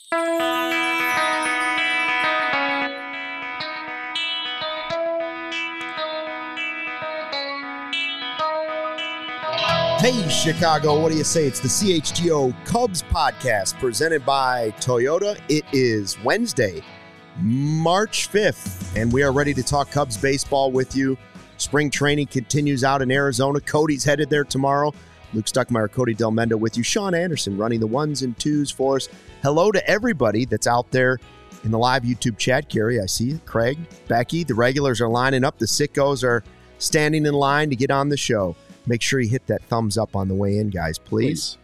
Hey, Chicago, what do you say? It's the CHGO Cubs podcast presented by Toyota. It is Wednesday, March 5th, and we are ready to talk Cubs baseball with you. Spring training continues out in Arizona. Cody's headed there tomorrow. Luke Stuckmeyer, Cody Del Mendo with you. Sean Anderson running the ones and twos for us. Hello to everybody that's out there in the live YouTube chat. Gary, I see you. Craig, Becky, the regulars are lining up. The sickos are standing in line to get on the show. Make sure you hit that thumbs up on the way in, guys. Please.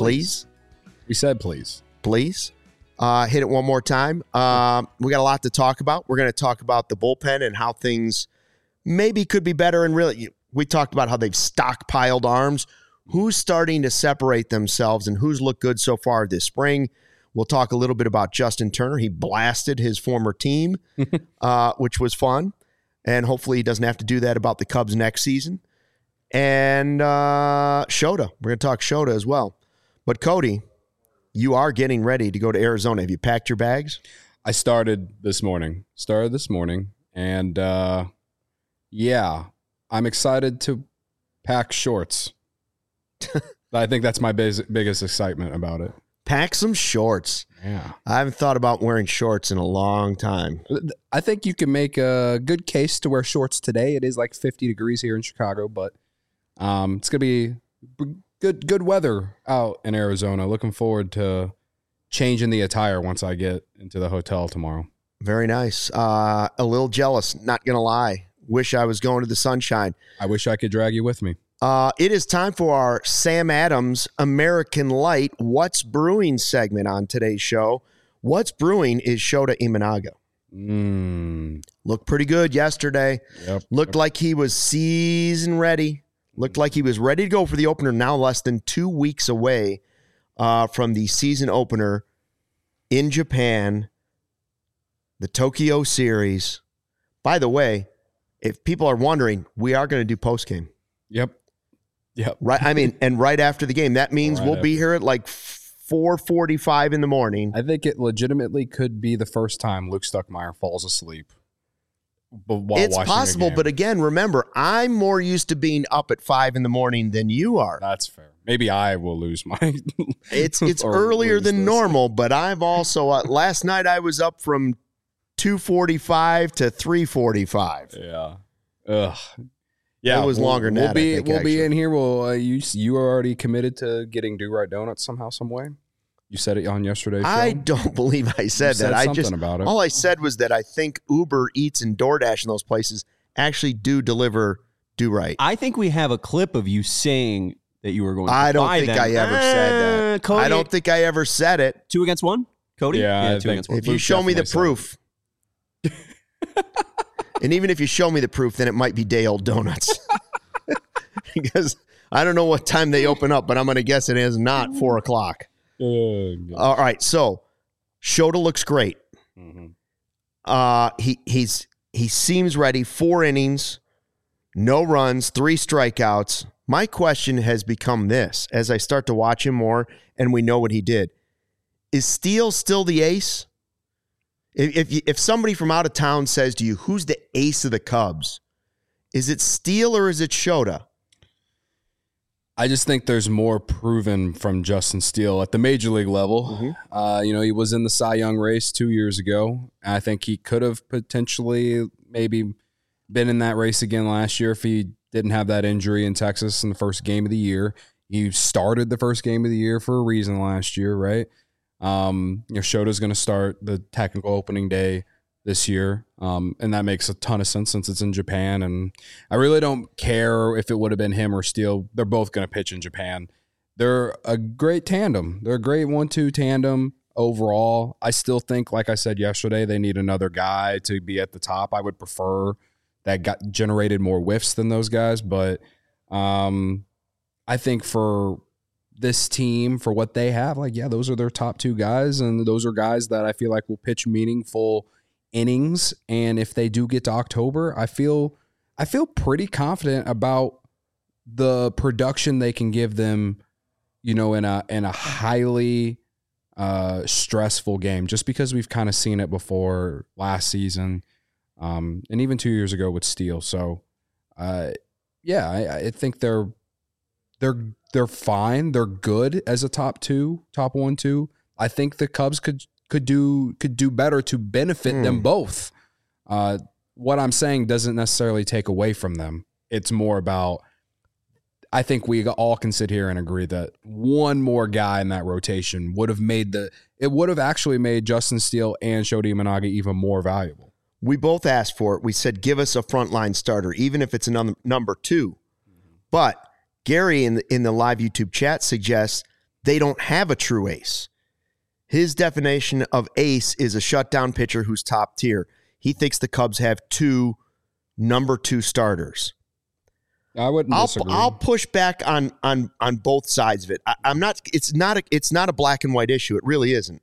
We said please. Please. Hit it one more time. We got a lot to talk about. We're going to talk about the bullpen and how things maybe could be better. And really, we talked about how they've stockpiled arms. Who's starting to separate themselves and who's looked good so far this spring. We'll talk a little bit about Justin Turner. He blasted his former team, which was fun. And hopefully he doesn't have to do that about the Cubs next season. And Shota. We're going to talk Shota as well. But Cody, you are getting ready to go to Arizona. Have you packed your bags? I started this morning. And yeah, I'm excited to pack shorts. I think that's my biggest excitement about it. Pack some shorts. Yeah. I haven't thought about wearing shorts in a long time. I think you can make a good case to wear shorts today. It is like 50 degrees here in Chicago, but it's going to be good weather out in Arizona. Looking forward to changing the attire once I get into the hotel tomorrow. Very nice. A little jealous, not going to lie. Wish I was going to the sunshine. I wish I could drag you with me. It is time for our Sam Adams American Light What's Brewing segment on today's show. What's brewing is Shota Imanaga. Looked pretty good yesterday. Yep. Looked like he was season ready. Looked like he was ready to go for the opener, now less than 2 weeks away from the season opener in Japan, the Tokyo Series. By the way, if people are wondering, we are going to do postgame. Yep. Right. I mean, and right after the game, that means we'll be here at like 4:45 in the morning. I think it legitimately could be the first time Luke Stuckmeyer falls asleep. It's possible, but again, remember, I'm more used to being up at 5 in the morning than you are. That's fair. Maybe I will lose my. It's earlier than normal, but I've also last night I was up from 2:45 to 3:45. Yeah. Ugh. Yeah, it was longer than that. We'll be in here. Well, you are already committed to getting Do Right Donuts somehow, some way. You said it on yesterday's show. I don't believe I said that. All I said was that I think Uber Eats and DoorDash in those places actually do deliver Do Right. I think we have a clip of you saying that you were going to I don't buy think them. I ever said that. Cody, I don't think I ever said it. 2 against 1? Cody? Yeah, 2 against 1. If you show me the proof. And even if you show me the proof, then it might be day-old donuts. Because I don't know what time they open up, but I'm going to guess it is not 4 o'clock. All right, so Shota looks great. Mm-hmm. He seems ready. 4 innings, no runs, 3 strikeouts. My question has become this, as I start to watch him more and we know what he did. Is Steele still the ace? If somebody from out of town says to you, who's the ace of the Cubs? Is it Steele or is it Shota? I just think there's more proven from Justin Steele at the major league level. Mm-hmm. He was in the Cy Young race 2 years ago. I think he could have potentially maybe been in that race again last year if he didn't have that injury in Texas in the first game of the year. He started the first game of the year for a reason last year, right? Shota's going to start the technical opening day this year, and that makes a ton of sense since it's in Japan, and I really don't care if it would have been him or Steele. They're both going to pitch in Japan. They're a great tandem. They're a great 1-2 tandem overall. I still think, like I said yesterday, they need another guy to be at the top. I would prefer that got generated more whiffs than those guys, but I think for this team, for what they have, those are their top 2 guys, and those are guys that I feel like will pitch meaningful innings. And if they do get to October, I feel pretty confident about the production they can give them, in a highly stressful game, just because we've kind of seen it before last season, and even 2 years ago with Steele. So, I think they're fine. They're good as a top 1, 2. I think the Cubs could do better to benefit them both. What I'm saying doesn't necessarily take away from them. It's more about, I think we all can sit here and agree that one more guy in that rotation would have actually made Justin Steele and Shota Imanaga even more valuable. We both asked for it. We said, give us a frontline starter, even if it's another number 2. But Gary in the live YouTube chat suggests they don't have a true ace. His definition of ace is a shutdown pitcher who's top tier. He thinks the Cubs have 2 number 2 starters. I wouldn't disagree. I'll push back on both sides of it. I'm not. It's not a black and white issue. It really isn't.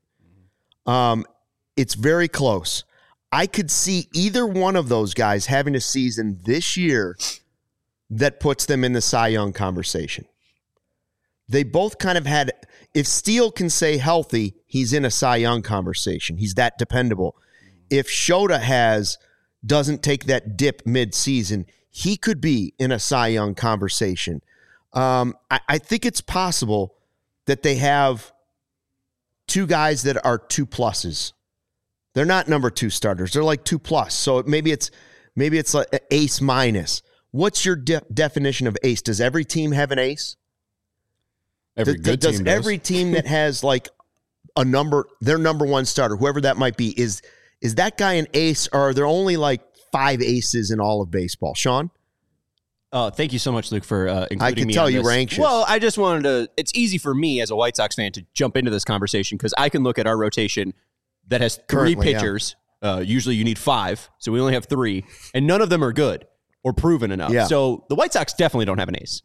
It's very close. I could see either one of those guys having a season this year that puts them in the Cy Young conversation. They both kind of had. If Steele can stay healthy, he's in a Cy Young conversation. He's that dependable. If Shota doesn't take that dip mid-season, he could be in a Cy Young conversation. I think it's possible that they have 2 guys that are 2 pluses. They're not number 2 starters. They're like 2 plus. So maybe it's like ace minus. What's your definition of ace? Does every team have an ace? Every good team does. Every team that has like their number 1 starter, whoever that might be, is that guy an ace, or are there only like 5 aces in all of baseball? Sean? Thank you so much, Luke, for including me. I can tell you were anxious. Well, I just wanted to, it's easy for me as a White Sox fan to jump into this conversation because I can look at our rotation that has 3 pitchers. Yeah. Usually you need 5, so we only have 3, and none of them are good or proven enough. Yeah. So the White Sox definitely don't have an ace.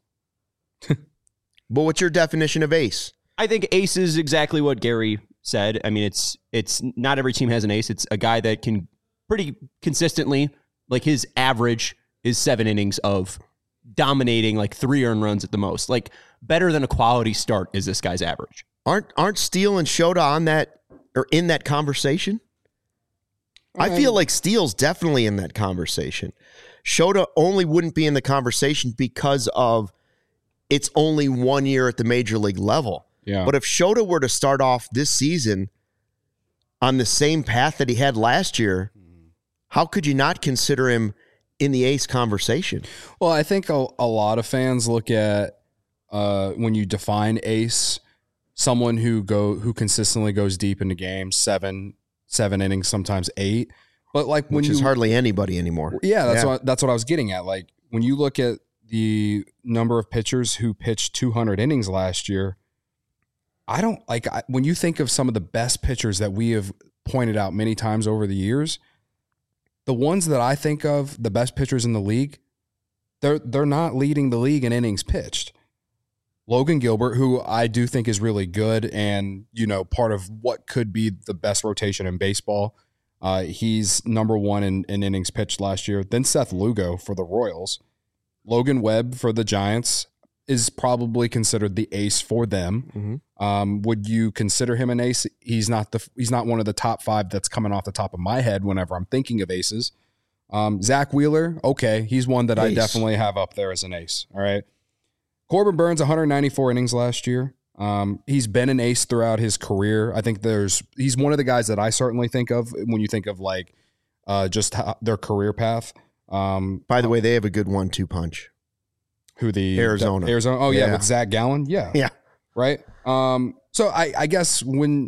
But what's your definition of ace? I think ace is exactly what Gary said. I mean, it's not every team has an ace. It's a guy that can pretty consistently, like his average is 7 innings of dominating, like 3 earned runs at the most. Like better than a quality start is this guy's average. Aren't Steele and Shota on that or in that conversation? I feel like Steele's definitely in that conversation. Shota only wouldn't be in the conversation because of it's only 1 year at the major league level. Yeah. But if Shota were to start off this season on the same path that he had last year, how could you not consider him in the ace conversation? Well, I think a lot of fans look at when you define ace, someone who consistently goes deep into games, seven innings, sometimes 8. But like which is hardly anybody anymore. Yeah, that's what I was getting at. Like when you look at the number of pitchers who pitched 200 innings last year, when you think of some of the best pitchers that we have pointed out many times over the years, the ones that I think of, the best pitchers in the league, they're not leading the league in innings pitched. Logan Gilbert, who I do think is really good and, part of what could be the best rotation in baseball. He's number 1 in innings pitched last year. Then Seth Lugo for the Royals. Logan Webb for the Giants is probably considered the ace for them. Mm-hmm. Would you consider him an ace? He's not one of the top 5 that's coming off the top of my head whenever I'm thinking of aces. Zach Wheeler, okay, he's one that ace. I definitely have up there as an ace. All right. Corbin Burns, 194 innings last year. He's been an ace throughout his career. I think he's one of the guys that I certainly think of when you think of like just their career path. By the way, they have a good 1-2 punch. Who Arizona? Arizona. Oh yeah, with Zach Gallen. Yeah. Yeah. Right. So I guess when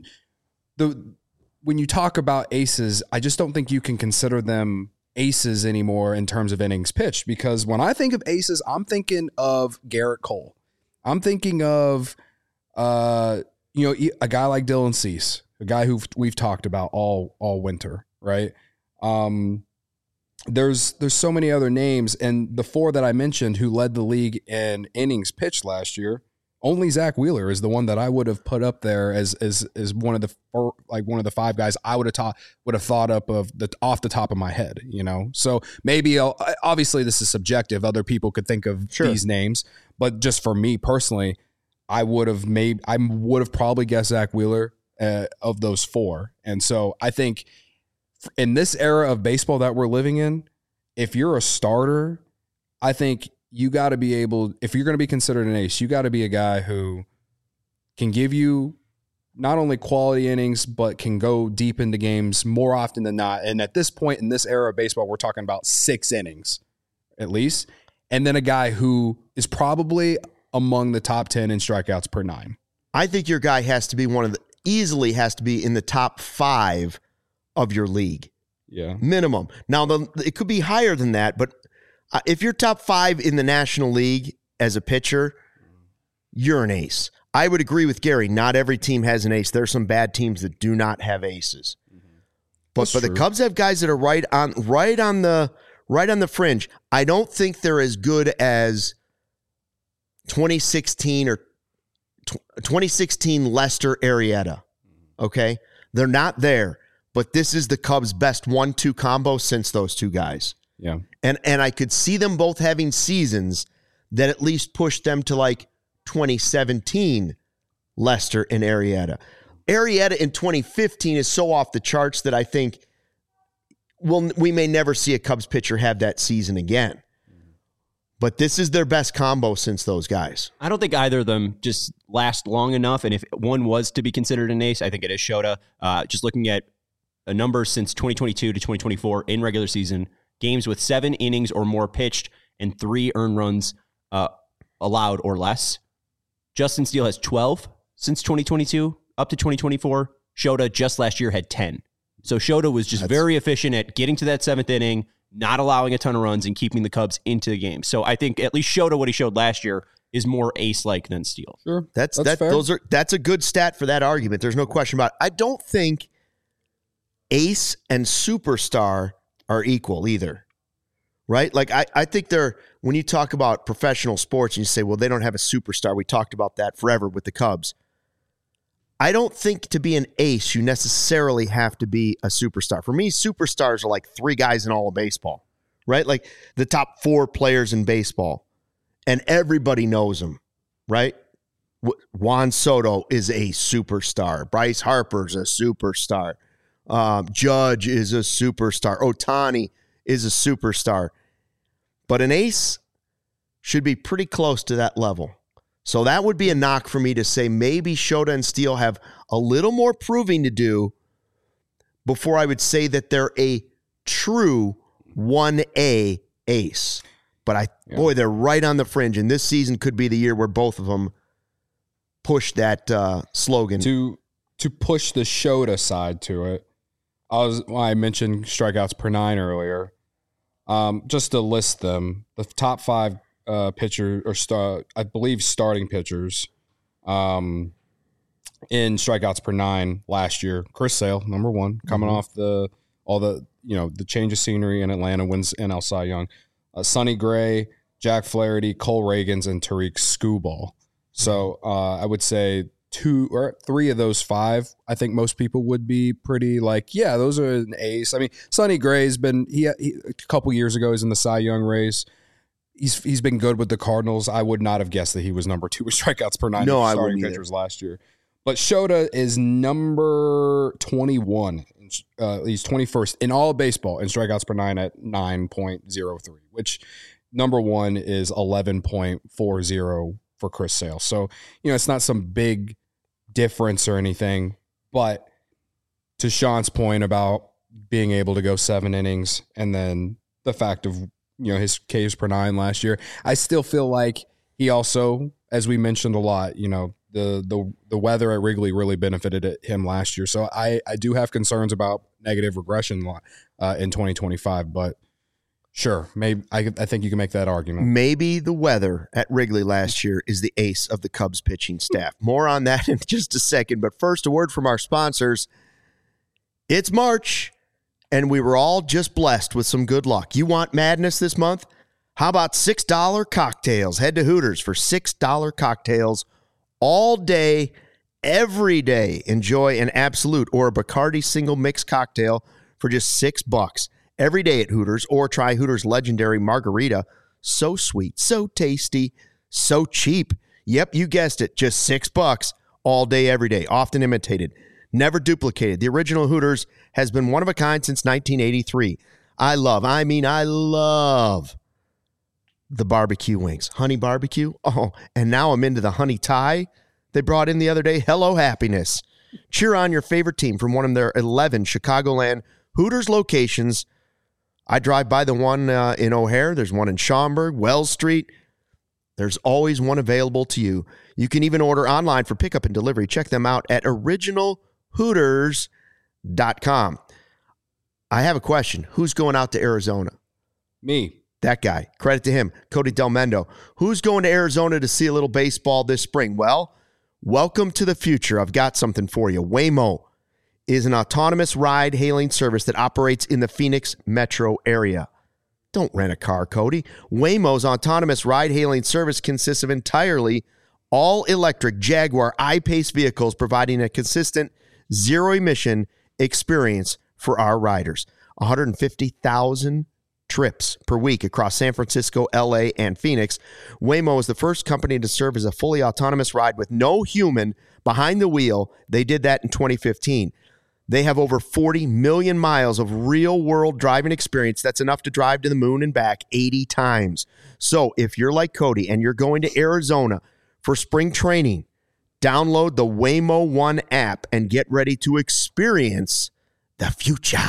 you talk about aces, I just don't think you can consider them aces anymore in terms of innings pitched, because when I think of aces, I'm thinking of Garrett Cole. I'm thinking of a guy like Dylan Cease, a guy who we've talked about all winter, right? There's so many other names, and the 4 that I mentioned who led the league in innings pitched last year, only Zach Wheeler is the one that I would have put up there as one of the 5 guys I would have thought up off the top of my head, So maybe obviously this is subjective. Other people could think of these names, but just for me personally, I would have probably guessed Zach Wheeler. of those four. And so I think in this era of baseball that we're living in, if you're a starter, I think you got to be able, if you're going to be considered an ace, you got to be a guy who can give you not only quality innings, but can go deep into games more often than not. And at this point in this era of baseball, we're talking about 6 innings at least. And then a guy who is probably among the top 10 in strikeouts per 9. I think your guy has to be easily has to be in the top 5 of your league. Yeah. Minimum. Now, it could be higher than that, but if you're top 5 in the National League as a pitcher, you're an ace. I would agree with Gary. Not every team has an ace. There are some bad teams that do not have aces. But the Cubs have guys that are right on the fringe. I don't think they're as good as 2016 or 2016 Lester Arrieta. Okay? They're not there, but this is the Cubs' best 1-2 combo since those two guys. Yeah. And I could see them both having seasons that at least push them to like 2017 Lester and Arrieta. Arrieta in 2015 is so off the charts that I think we may never see a Cubs pitcher have that season again. But this is their best combo since those guys. I don't think either of them just last long enough. And if one was to be considered an ace, I think it is Shota. Just looking at a number since 2022 to 2024 in regular season, games with 7 innings or more pitched and 3 earned runs allowed or less. Justin Steele has 12 since 2022 up to 2024. Shota just last year had 10. So Shota was just very efficient at getting to that 7th inning, not allowing a ton of runs, and keeping the Cubs into the game. So I think at least Shota, what he showed last year, is more ace-like than Steele. Sure. That's fair. That's a good stat for that argument. There's no question about it. I don't think ace and superstar are equal either. Right? Like, I think when you talk about professional sports and you say, well, they don't have a superstar. We talked about that forever with the Cubs. I don't think to be an ace, you necessarily have to be a superstar. For me, superstars are like 3 guys in all of baseball, right? Like the top 4 players in baseball, and everybody knows them, right? Juan Soto is a superstar. Bryce Harper's a superstar. Judge is a superstar. Ohtani is a superstar. But an ace should be pretty close to that level. So that would be a knock for me to say maybe Shota and Steele have a little more proving to do before I would say that they're a true 1A ace. But boy, they're right on the fringe, and this season could be the year where both of them push that slogan. To push the Shota side to it, I mentioned strikeouts per 9 earlier. Just to list them, the top 5 pitcher or I believe starting pitchers in strikeouts per 9 last year. Chris Sale, number 1, coming off the change of scenery in Atlanta, wins NL Cy Young. Sonny Gray, Jack Flaherty, Cole Reagans, and Tariq Skubal. So I would say 2 or 3 of those 5, I think most people would be pretty like, yeah, those are an ace. I mean, Sonny Gray's been he a couple years ago he's in the Cy Young race. He's been good with the Cardinals. I would not have guessed that he was number 2 with strikeouts per 9 starting pitchers last year. But Shota is number 21. He's 21st in all of baseball in strikeouts per 9 at 9.03, which number 1 is 11.40 for Chris Sale. So, it's not some big difference or anything. But to Sean's point about being able to go 7 innings and then the fact of his Ks per 9 last year, I still feel like he also, as we mentioned a lot, the weather at Wrigley really benefited him last year. So I do have concerns about negative regression in 2025, but sure, maybe I think you can make that argument. Maybe the weather at Wrigley last year is the ace of the Cubs pitching staff. More on that in just a second, but first a word from our sponsors. It's March, and we were all just blessed with some good luck. You want madness this month? How about $6 cocktails? Head to Hooters for $6 cocktails all day, every day. Enjoy an Absolute or a Bacardi single mix cocktail for just $6 every day at Hooters, or try Hooters' legendary margarita. So sweet, so tasty, so cheap. Yep, you guessed it, just $6 all day, every day. Often imitated. never duplicated. The original Hooters has been one of a kind since 1983. I love the barbecue wings. Honey barbecue. Oh, and now I'm into the honey Thai they brought in the other day. Hello, happiness. Cheer on your favorite team from one of their 11 Chicagoland Hooters locations. I drive by the one in O'Hare. There's one in Schaumburg, Wells Street. There's always one available to you. You can even order online for pickup and delivery. Check them out at originalhooters.com. I have a question. Who's going out to Arizona? Me. That guy. Credit to him. Cody Delmendo. Who's going to Arizona to see a little baseball this spring? Well, welcome to the future. I've got something for you. Waymo is an autonomous ride-hailing service that operates in the Phoenix metro area. Don't rent a car, Cody. Waymo's autonomous ride-hailing service consists of entirely all-electric Jaguar I-Pace vehicles, providing a consistent zero-emission experience for our riders. 150,000 trips per week across San Francisco, LA, and Phoenix. Waymo is the first company to serve as a fully autonomous ride with no human behind the wheel. They did that in 2015. They have over 40 million miles of real-world driving experience. That's enough to drive to the moon and back 80 times. So if you're like Cody and you're going to Arizona for spring training, download the Waymo One app and get ready to experience the future.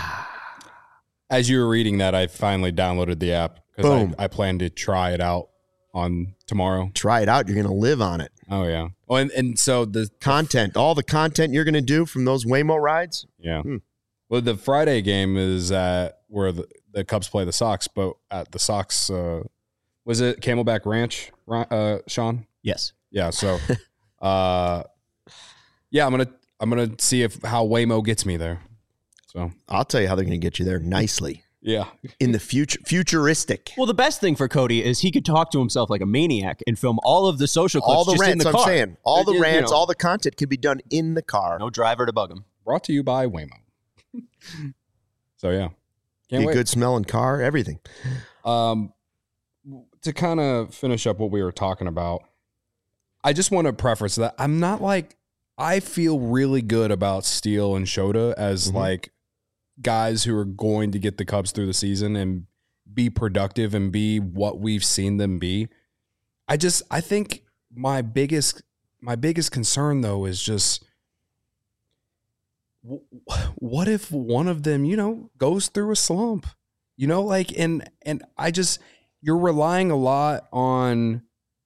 As you were reading that, I finally downloaded the app because I plan to try it out on tomorrow. Try it out. You're going to live on it. Oh, yeah. Oh, and so the content, all the content you're going to do from those Waymo rides. Yeah. Well, the Friday game is at where the Cubs play the Sox, but at the Sox, was it Camelback Ranch, Sean? Yes. Yeah. So, yeah, I'm gonna see how Waymo gets me there. So I'll tell you how they're going to get you there nicely. Yeah. In the futuristic. Well, the best thing for Cody is he could talk to himself like a maniac and film all of the social clips all the just rants, in the car. I'm saying. All the rants, all the content could be done in the car. No driver to bug him. Brought to you by Waymo. So, yeah. Can't wait. Good smelling car, everything. To kind of finish up what we were talking about, I just want to preface that I'm not like, I feel really good about Steele and Shota as like guys who are going to get the Cubs through the season and be productive and be what we've seen them be. I think my biggest concern though is just what if one of them, goes through a slump, and I just, you're relying a lot on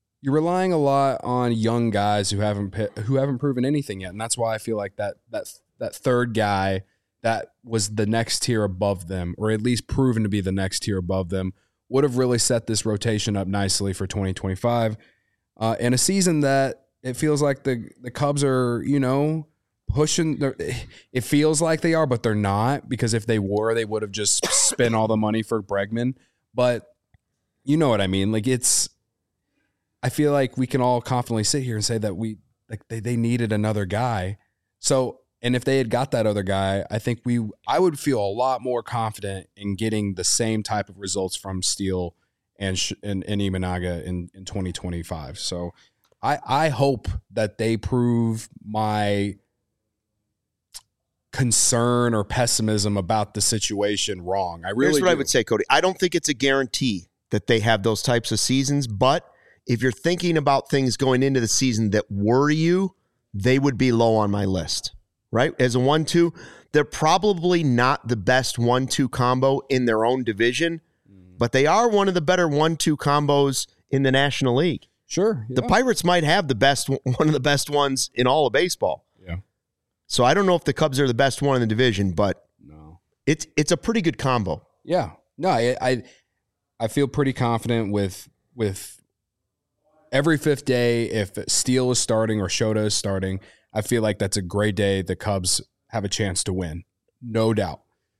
young guys who haven't proven anything yet. And that's why I feel like that third guy that was the next tier above them, or at least proven to be the next tier above them, would have really set this rotation up nicely for 2025. In a season that it feels like the Cubs are, pushing. It feels like they are, but they're not, because if they were, they would have just spent all the money for Bregman. But you know what I mean? Like I feel like we can all confidently sit here and say that they needed another guy. So, and if they had got that other guy, I think I would feel a lot more confident in getting the same type of results from Steele and Imanaga in 2025. So I hope that they prove my concern or pessimism about the situation wrong. Here's what I would say, Cody. I don't think it's a guarantee that they have those types of seasons, but if you're thinking about things going into the season that worry you, they would be low on my list, right? As a 1-2, they're probably not the best 1-2 combo in their own division, but they are one of the better 1-2 combos in the National League. Sure. Yeah. The Pirates might have one of the best ones in all of baseball. Yeah. So I don't know if the Cubs are the best one in the division, but no, it's a pretty good combo. Yeah. No, I feel pretty confident with every fifth day, if Steele is starting or Shota is starting, I feel like that's a great day. The Cubs have a chance to win, no doubt.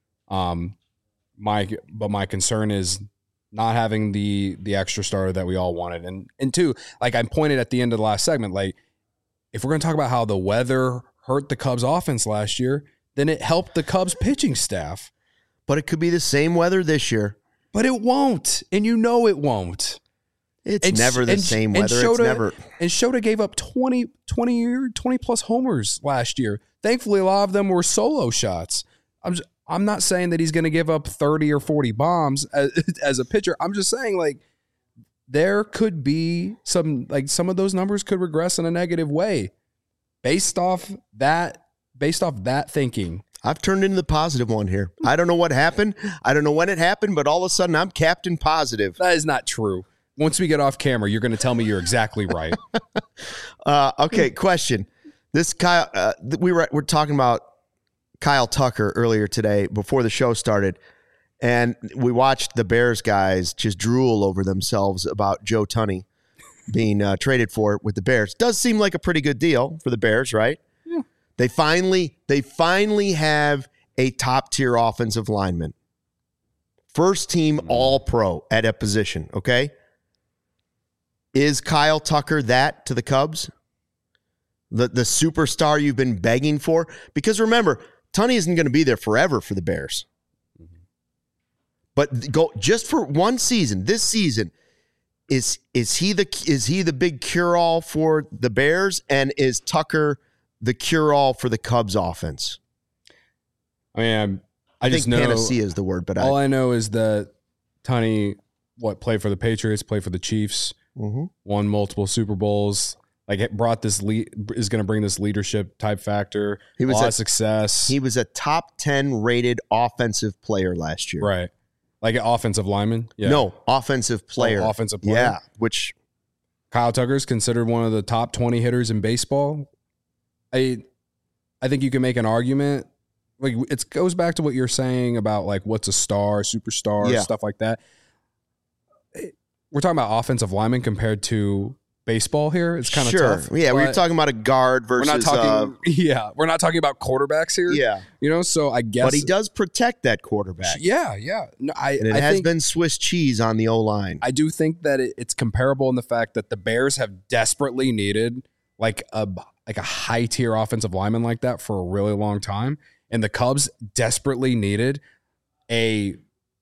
My concern is not having the extra starter that we all wanted, and two, like I pointed at the end of the last segment, like if we're going to talk about how the weather hurt the Cubs offense last year, then it helped the Cubs pitching staff. But it could be the same weather this year. But it won't, and it won't. It's never the same weather. Shota, it's never. And Shota gave up 20 plus homers last year. Thankfully, a lot of them were solo shots. I'm not saying that he's going to give up 30 or 40 bombs as a pitcher. I'm just saying, like, there could be some of those numbers could regress in a negative way based off that thinking. I've turned into the positive one here. I don't know what happened. I don't know when it happened, but all of a sudden I'm Captain Positive. That is not true. Once we get off camera, you're going to tell me you're exactly right. Okay, question. This Kyle, we're talking about Kyle Tucker earlier today before the show started, and we watched the Bears guys just drool over themselves about Joe Tunney being traded for with the Bears. Does seem like a pretty good deal for the Bears, right? Yeah. They finally have a top-tier offensive lineman. First team All-Pro at a position, okay? Is Kyle Tucker that to the Cubs? The superstar you've been begging for? Because remember, Tunney isn't going to be there forever for the Bears. But go just for one season. This season, is he the big cure-all for the Bears, and is Tucker the cure-all for the Cubs offense? I mean, I think just know panacea is the word, but all I know is that Tunney played for the Patriots, played for the Chiefs, won multiple Super Bowls. Like, it brought this is going to bring this leadership type factor. He was a lot of success. He was a top 10 rated offensive player last year. Right. Like an offensive lineman? Yeah. No, offensive player. Oh, offensive player. Yeah, which Kyle Tucker is considered one of the top 20 hitters in baseball. I think you can make an argument. Like, it goes back to what you're saying about, like, what's a star, superstar, stuff like that. We're talking about offensive linemen compared to baseball here. It's kind of tough. Yeah, we're talking about a guard versus. We're not talking about quarterbacks here. Yeah, so I guess. But he does protect that quarterback. Yeah. No, I has been Swiss cheese on the O-line. I do think that it's comparable in the fact that the Bears have desperately needed like a high tier offensive lineman like that for a really long time, and the Cubs desperately needed a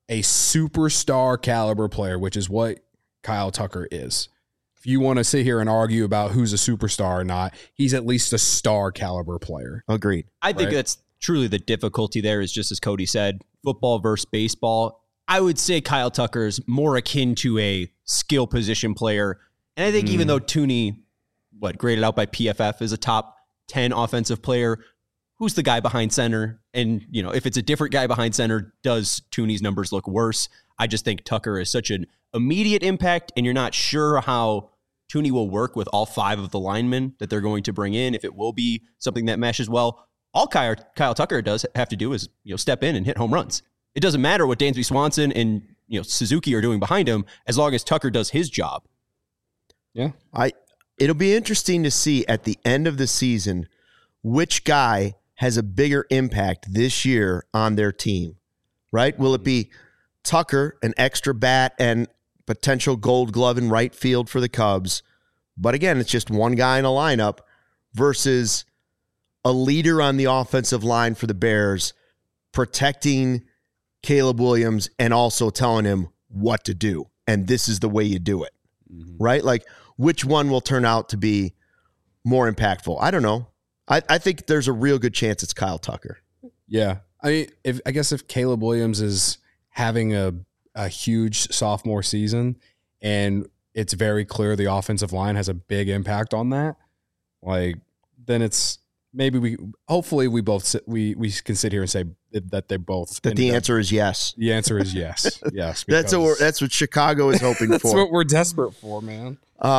superstar caliber player, which is what Kyle Tucker is. If you want to sit here and argue about who's a superstar or not, he's at least a star caliber player. Agreed. I think that's truly the difficulty there is just as Cody said, football versus baseball. I would say Kyle Tucker is more akin to a skill position player. And I think even though Tooney, graded out by PFF as a top 10 offensive player, who's the guy behind center? And, if it's a different guy behind center, does Tooney's numbers look worse? I just think Tucker is such an immediate impact, and you're not sure how Tooney will work with all 5 of the linemen that they're going to bring in, if it will be something that meshes well. All Kyle Tucker does have to do is step in and hit home runs. It doesn't matter what Dansby Swanson and Suzuki are doing behind him, as long as Tucker does his job. Yeah. It'll be interesting to see at the end of the season which guy has a bigger impact this year on their team, right? Will it be Tucker, an extra bat and potential gold glove in right field for the Cubs, but again, it's just one guy in a lineup, versus a leader on the offensive line for the Bears, protecting Caleb Williams and also telling him what to do, and this is the way you do it, right? Like, which one will turn out to be more impactful? I don't know. I think there's a real good chance it's Kyle Tucker. Yeah. I mean, if Caleb Williams is having a huge sophomore season and it's very clear the offensive line has a big impact on that, then it's maybe hopefully we can sit here and say that they both. That the answer is yes. The answer is yes. Yes. That's what Chicago is hoping for. That's what we're desperate for, man.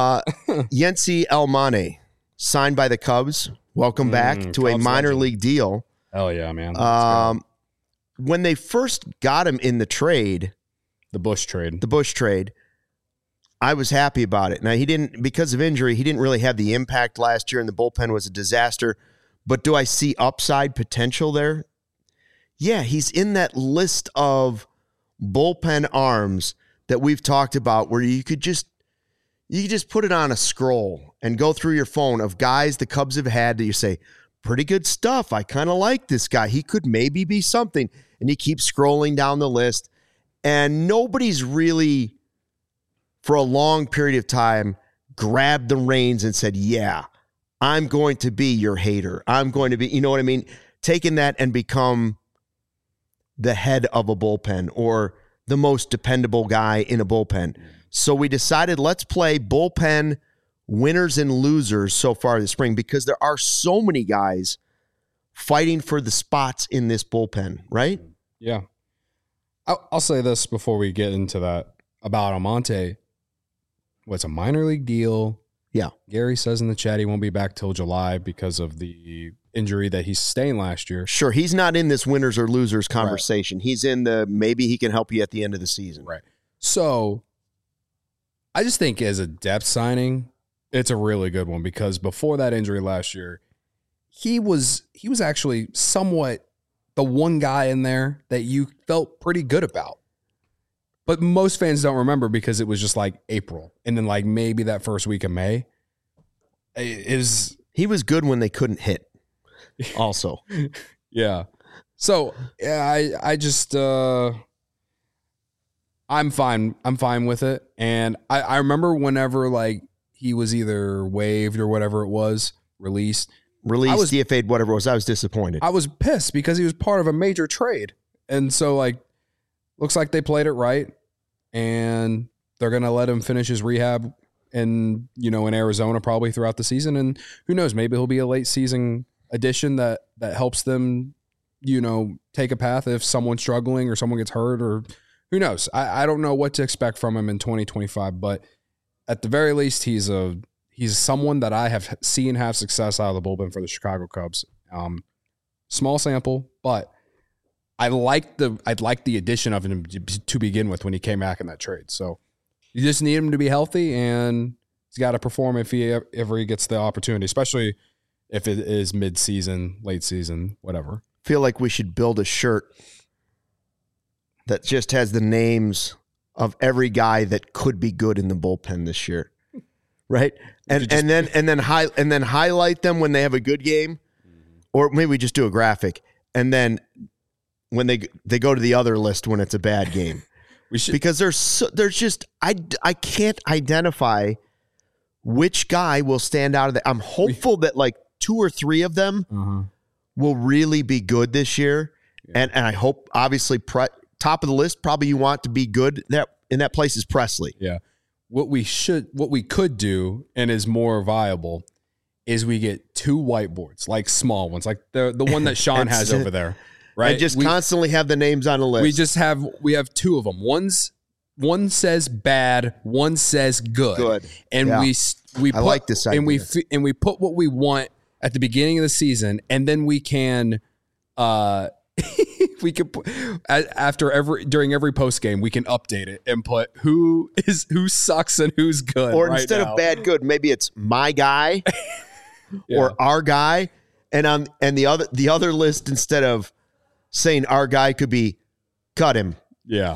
Yency Elmane, signed by the Cubs. Welcome back to a minor league deal. Hell yeah, man. When they first got him in the trade, the Bush trade, I was happy about it. Now, because of injury, he didn't really have the impact last year, and the bullpen was a disaster. But do I see upside potential there? Yeah, he's in that list of bullpen arms that we've talked about where you could just put it on a scroll and go through your phone of guys the Cubs have had that you say, pretty good stuff. I kind of like this guy. He could maybe be something. And you keep scrolling down the list, and nobody's really for a long period of time, grabbed the reins and said, yeah, I'm going to be your hater. I'm going to be, you know what I mean? Taking that and become the head of a bullpen or the most dependable guy in a bullpen. So we decided let's play bullpen winners and losers so far this spring because there are so many guys fighting for the spots in this bullpen, right? Yeah. I'll say this before we get into that about Almonte. What's a minor league deal? Yeah. Gary says in the chat he won't be back till July because of the injury that he sustained last year. Sure, he's not in this winners or losers conversation. Right. He's in the maybe he can help you at the end of the season. Right. So I just think as a depth signing, it's a really good one because before that injury last year, he was actually somewhat the one guy in there that you felt pretty good about. But most fans don't remember because it was just like April and then like maybe that first week of May. He was good when they couldn't hit. Also. Yeah. So yeah, I just I'm fine with it. And I remember whenever like he was either waived or whatever it was, released, DFA'd, whatever it was, I was disappointed. I was pissed because he was part of a major trade. And so like looks like they played it right, and they're going to let him finish his rehab in Arizona probably throughout the season. And who knows, maybe he'll be a late season addition that helps them, take a path if someone's struggling or someone gets hurt or who knows. I don't know what to expect from him in 2025, but at the very least, he's someone that I have seen have success out of the bullpen for the Chicago Cubs. Small sample, but I'd like the addition of him to begin with when he came back in that trade. So you just need him to be healthy, and he's got to perform if he ever gets the opportunity, especially if it is mid-season, late season, whatever. Feel like we should build a shirt that just has the names of every guy that could be good in the bullpen this year, right? And then highlight them when they have a good game, or maybe we just do a graphic, and then when they go to the other list when it's a bad game. Because there's just I can't identify which guy will stand out of that. I'm hopeful that like 2 or 3 of them will really be good this year, and I hope obviously top of the list probably you want to be good in that place is Presley. Yeah, what we could do and is more viable is we get 2 whiteboards, like small ones, like the one that Sean has over there. Right. And just constantly have the names on a list. We have 2 of them. One says bad, one says good. And we I like this idea. And we put what we want at the beginning of the season, and then we can during every post game we can update it and put who sucks and who's good. Or instead of bad good, maybe it's my guy or our guy, and the other list instead of saying our guy could be cut him. Yeah.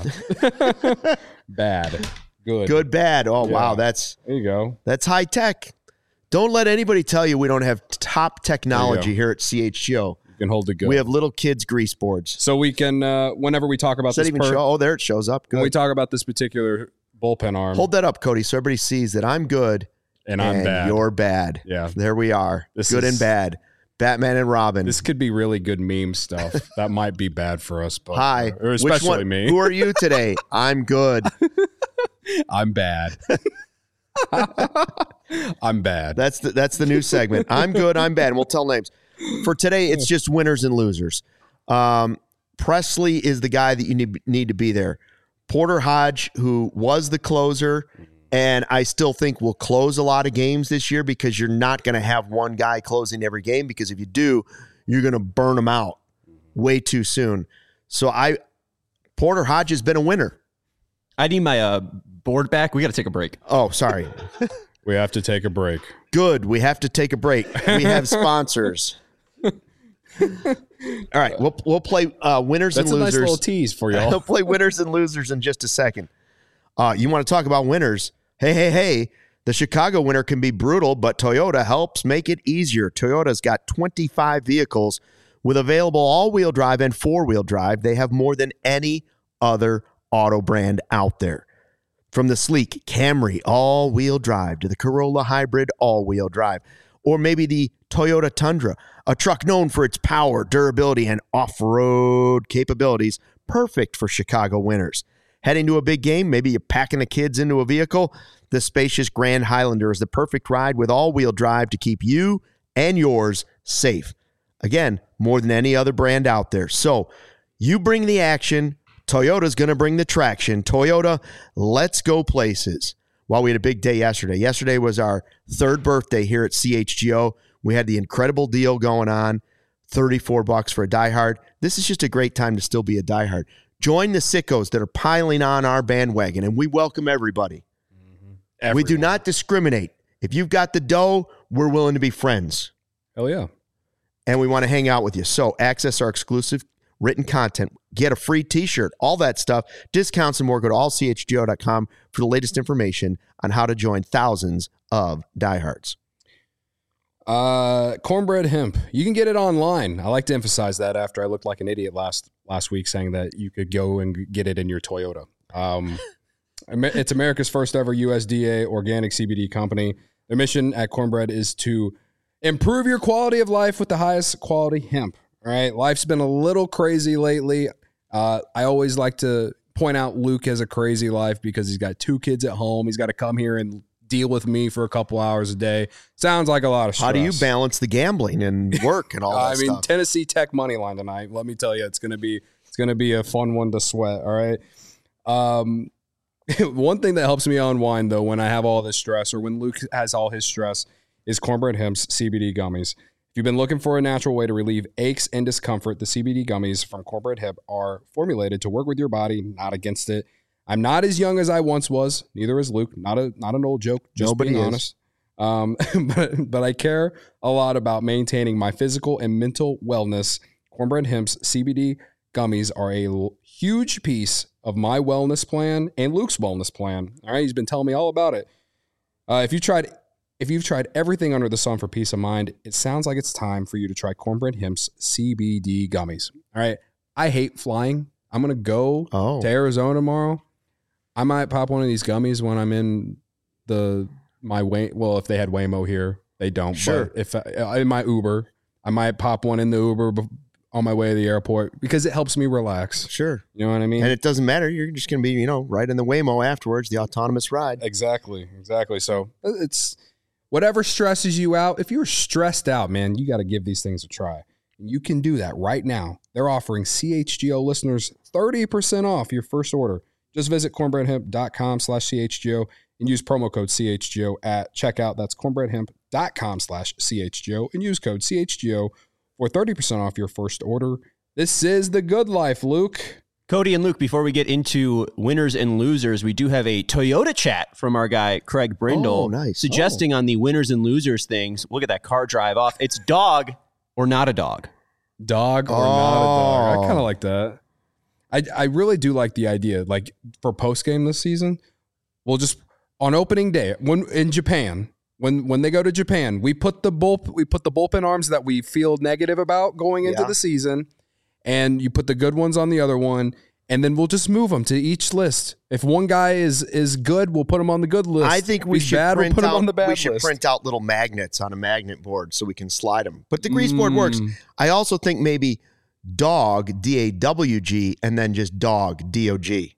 Bad. Good. Good, bad. Oh, yeah. Wow. There you go. That's high tech. Don't let anybody tell you we don't have top technology here at CHGO. You can hold it good. We have little kids grease boards. So we can, whenever we talk about Does that even show? Oh, there it shows up. Good. When we talk about this particular bullpen arm. Hold that up, Cody, so everybody sees that I'm good and I'm bad. You're bad. Yeah. There we are. Good and bad. Batman and Robin. This could be really good meme stuff. That might be bad for us, but hi, or especially me. Who are you today? I'm good. I'm bad. I'm bad. That's the new segment. I'm good. I'm bad. And we'll tell names. For today, it's just winners and losers. Presley is the guy that you need to be there. Porter Hodge, who was the closer, and I still think will close a lot of games this year because you're not going to have one guy closing every game, because if you do, you're going to burn them out way too soon. So Porter Hodge has been a winner. I need my board back. We got to take a break. Oh, sorry. We have to take a break. Good. We have to take a break. We have sponsors. All right. We'll play winners and losers. That's a nice little tease for y'all. We'll play winners and losers in just a second. You want to talk about winners? Hey. The Chicago winter can be brutal, but Toyota helps make it easier. Toyota's got 25 vehicles with available all-wheel drive and four-wheel drive. They have more than any other auto brand out there. From the sleek Camry all-wheel drive to the Corolla Hybrid all-wheel drive, or maybe the Toyota Tundra, a truck known for its power, durability, and off-road capabilities, perfect for Chicago winters. Heading to a big game, maybe you're packing the kids into a vehicle, the spacious Grand Highlander is the perfect ride with all-wheel drive to keep you and yours safe. Again, more than any other brand out there. So you bring the action, Toyota's going to bring the traction. Toyota, let's go places. Well, we had a big day yesterday. Yesterday was our third birthday here at CHGO. We had the incredible deal going on, $34 for a diehard. This is just a great time to still be a diehard. Join the sickos that are piling on our bandwagon, and we welcome everybody. We do not discriminate. If you've got the dough, we're willing to be friends. Hell yeah. And we want to hang out with you. So access our exclusive written content, get a free t-shirt, all that stuff, discounts and more. Go to allchgo.com for the latest information on how to join thousands of diehards. Cornbread hemp. You can get it online. I like to emphasize that after I looked like an idiot last week saying that you could go and get it in your Toyota. It's America's first ever USDA organic CBD company. Their mission at Cornbread is to improve your quality of life with the highest quality hemp. All right. Life's been a little crazy lately. I always like to point out Luke has a crazy life because he's got 2 kids at home. He's got to come here and deal with me for a couple hours a day. Sounds like a lot of stress. How do you balance the gambling and work and all that stuff? Tennessee Tech money line tonight. Let me tell you, it's going to be a fun one to sweat. All right. One thing that helps me unwind though, when I have all this stress or when Luke has all his stress, is Cornbread Hemp's CBD gummies. If you've been looking for a natural way to relieve aches and discomfort, the CBD gummies from Cornbread Hemp are formulated to work with your body, not against it. I'm not as young as I once was. Neither is Luke. Not an old joke. Just Nobody being is. honest. But I care a lot about maintaining my physical and mental wellness. Cornbread Hemp's CBD gummies are a huge piece of my wellness plan and Luke's wellness plan. All right, he's been telling me all about it. If you've tried everything under the sun for peace of mind, it sounds like it's time for you to try Cornbread Hemp's CBD gummies. All right. I hate flying. I'm going to go to Arizona tomorrow. I might pop one of these gummies when I'm in if they had Waymo here, they don't. Sure. But if in my Uber, I might pop one in the Uber on my way to the airport because it helps me relax. Sure. You know what I mean? And it doesn't matter. You're just going to be, right in the Waymo afterwards, the autonomous ride. Exactly. So it's whatever stresses you out. If you're stressed out, man, you got to give these things a try. And you can do that right now. They're offering CHGO listeners 30% off your first order. Just visit cornbreadhemp.com/CHGO and use promo code CHGO at checkout. That's cornbreadhemp.com/CHGO and use code CHGO for 30% off your first order. This is the good life, Luke. Cody and Luke, before we get into winners and losers, we do have a Toyota chat from our guy, Craig Brindle, Oh, nice. suggesting on the winners and losers things, we'll get that car drive off. It's dog or not a dog. Dog or not a dog. I kind of like that. I really do like the idea. Like for post game this season, we'll just on opening day when in Japan, when they go to Japan, we put the bullpen arms that we feel negative about going into the season, and you put the good ones on the other one, and then we'll just move them to each list. If one guy is good, we'll put him on the good list. I think we If he's should bad, we'll put him on the bad we should list. print out little magnets on a magnet board so we can slide them. But the grease board works. I also think maybe dog, D-A-W-G, and then just dog, D-O-G.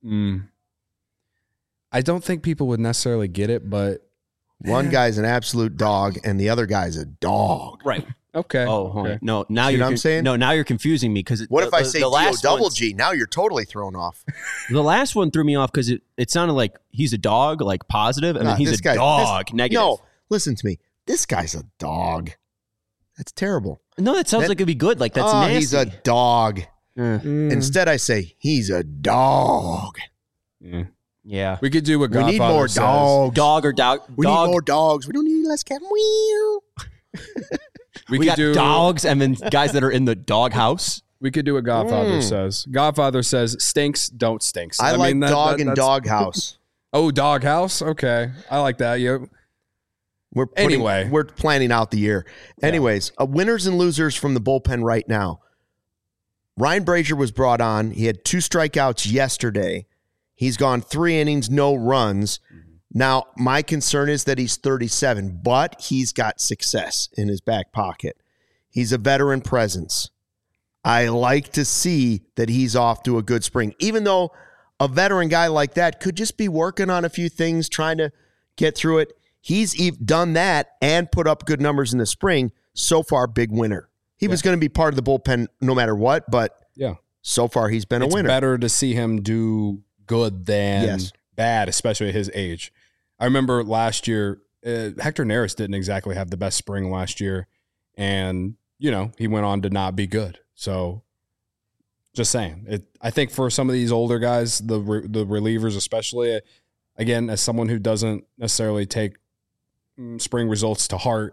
I don't think people would necessarily get it, but One guy's an absolute dog, and the other guy's a dog. Right. okay. Oh, hold okay. on. No, now See you're what I'm saying? No, now you're confusing me because What if I say last D-O-double-G? Now you're totally thrown off. The last one threw me off because it sounded like he's a dog, like positive, and Nah, then he's this a guy's- dog, negative. No, listen to me. This guy's a dog. That's terrible. No, that sounds like it'd be good. Like that's nasty. He's a dog. Instead, I say he's a dog. Yeah. We could do what We Godfather need more says. dogs. Dog or dog. We dog. need more dogs. We don't need less cat. Meow. We could got do dogs and then guys that are in the dog house. We could do what Godfather says. Godfather says, "Stinks, don't stinks." I like mean, dog and that's- doghouse. Oh, doghouse. Okay, I like that. Yeah. We're planning out the year. Anyways, winners and losers from the bullpen right now. Ryan Brazier was brought on. He had 2 strikeouts yesterday. He's gone 3 innings, no runs. Now, my concern is that he's 37, but he's got success in his back pocket. He's a veteran presence. I like to see that he's off to a good spring, even though a veteran guy like that could just be working on a few things, trying to get through it. He's done that and put up good numbers in the spring. So far, big winner. He was going to be part of the bullpen no matter what, but so far he's been a winner. It's better to see him do good than bad, especially at his age. I remember last year, Hector Neris didn't exactly have the best spring last year, and, he went on to not be good. So just saying, I think for some of these older guys, the relievers especially, again, as someone who doesn't necessarily take spring results to heart,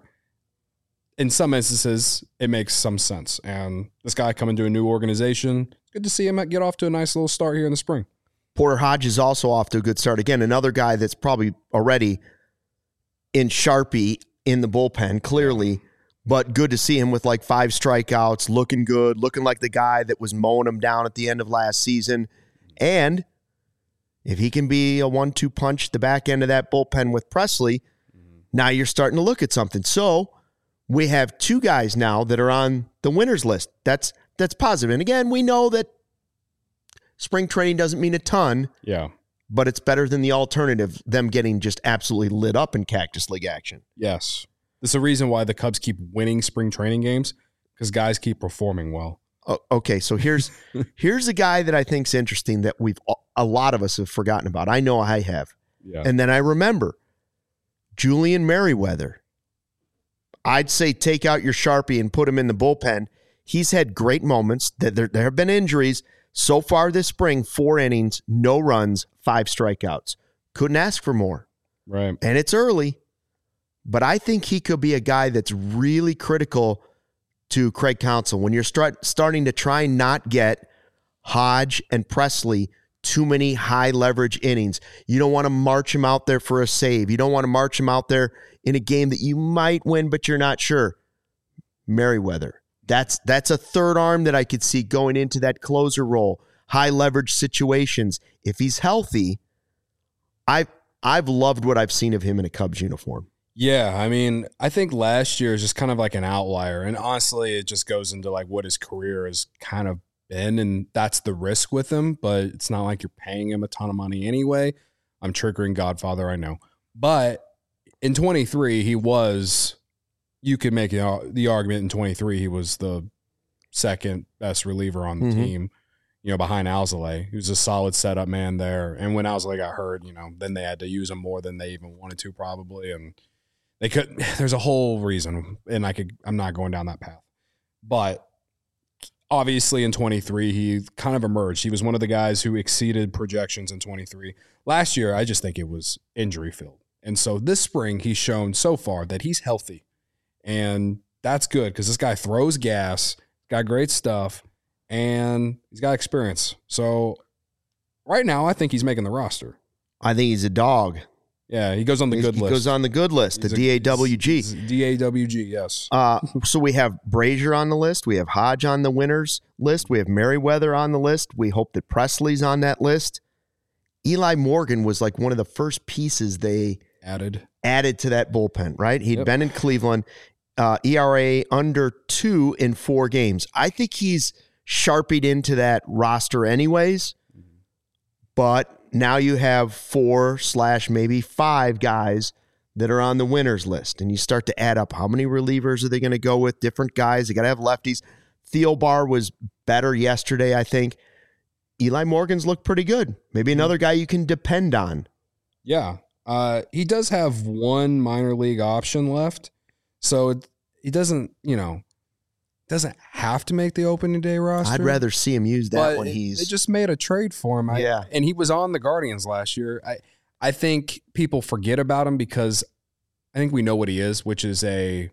in some instances, it makes some sense. And this guy coming to a new organization, good to see him get off to a nice little start here in the spring. Porter Hodge is also off to a good start. Again, another guy that's probably already in Sharpie in the bullpen, clearly, but good to see him with like 5 strikeouts, looking good, looking like the guy that was mowing him down at the end of last season. And if he can be a 1-2 punch the back end of that bullpen with Presley, now you're starting to look at something. So we have 2 guys now that are on the winners list. That's positive. And again, we know that spring training doesn't mean a ton. Yeah. But it's better than the alternative, them getting just absolutely lit up in Cactus League action. Yes. There's a reason why the Cubs keep winning spring training games, because guys keep performing well. Okay, so here's a guy that I think's interesting that a lot of us have forgotten about. I know I have. Yeah. And then I remember Julian Merriweather. I'd say take out your Sharpie and put him in the bullpen. He's had great moments. There have been injuries. So far this spring, 4 innings, no runs, 5 strikeouts. Couldn't ask for more. Right. And it's early, but I think he could be a guy that's really critical to Craig Counsell. When you're starting to try not get Hodge and Presley too many high leverage innings, you don't want to march him out there for a save. You don't want to march him out there in a game that you might win, but you're not sure. Merriweather. That's a third arm that I could see going into that closer role, high leverage situations. If he's healthy, I've loved what I've seen of him in a Cubs uniform. Yeah, I mean, I think last year is just kind of like an outlier, and honestly, it just goes into like what his career has kind of been, and that's the risk with him. But it's not like you're paying him a ton of money anyway. I'm triggering Godfather, I know, but in 23, he was. You could make the argument in 23 he was the second best reliever on the team, behind Alzolay. He was a solid setup man there. And when Alzolay got hurt, then they had to use him more than they even wanted to probably. And they could. There's a whole reason, and I'm not going down that path. But obviously in 23 he kind of emerged. He was one of the guys who exceeded projections in 23. Last year, I just think it was injury filled. And so this spring he's shown so far that he's healthy. And that's good because this guy throws gas, got great stuff, and he's got experience. So right now, I think he's making the roster. I think he's a dog. Yeah, he goes on the good list. He goes on the good list, the DAWG. DAWG, yes. So we have Brazier on the list. We have Hodge on the winners list. We have Merriweather on the list. We hope that Presley's on that list. Eli Morgan was like one of the first pieces they added to that bullpen, right? He'd been in Cleveland. ERA under 2 in 4 games. I think he's sharpied into that roster anyways, but now you have 4/maybe 5 guys that are on the winners list, and you start to add up how many relievers are they going to go with, different guys. They got to have lefties. Thielbar was better yesterday, I think. Eli Morgan's looked pretty good. Maybe another guy you can depend on. Yeah. He does have 1 minor league option left. So he doesn't have to make the opening day roster. I'd rather see him use that when they just made a trade for him. And he was on the Guardians last year. I think people forget about him because I think we know what he is, which is a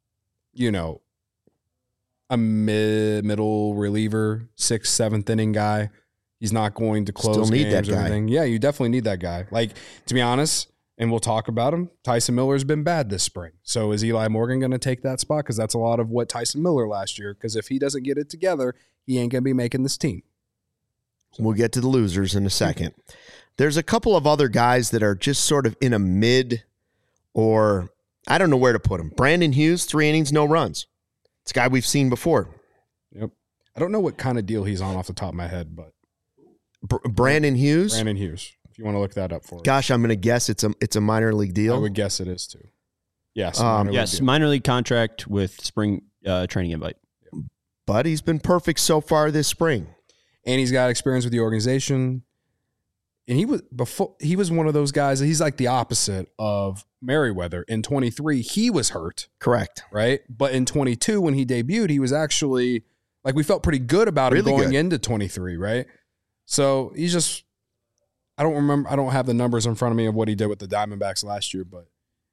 middle reliever, 6th, 7th inning guy. He's not going to close games or anything. Yeah, you definitely need that guy. Like, to be honest, and we'll talk about him, Tyson Miller's been bad this spring. So is Eli Morgan going to take that spot? Because that's a lot of what Tyson Miller last year. Because if he doesn't get it together, he ain't going to be making this team. We'll get to the losers in a second. There's a couple of other guys that are just sort of in a mid, or I don't know where to put them. Brandon Hughes, 3 innings, no runs. It's a guy we've seen before. Yep. I don't know what kind of deal he's on off the top of my head, but Brandon Hughes. Brandon Hughes. If you want to look that up for us. Gosh, I'm going to guess it's a minor league deal. I would guess it is too. Yes. Minor league contract with spring training invite. But he's been perfect so far this spring. And he's got experience with the organization. And he was one of those guys. He's like the opposite of Merriweather. In 23, he was hurt. Correct. Right? But in 22, when he debuted, he was actually, like, we felt pretty good about him going into 23, right? So he's just, I don't have the numbers in front of me of what he did with the Diamondbacks last year, but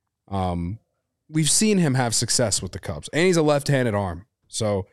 we've seen him have success with the Cubs. And he's a left-handed arm. So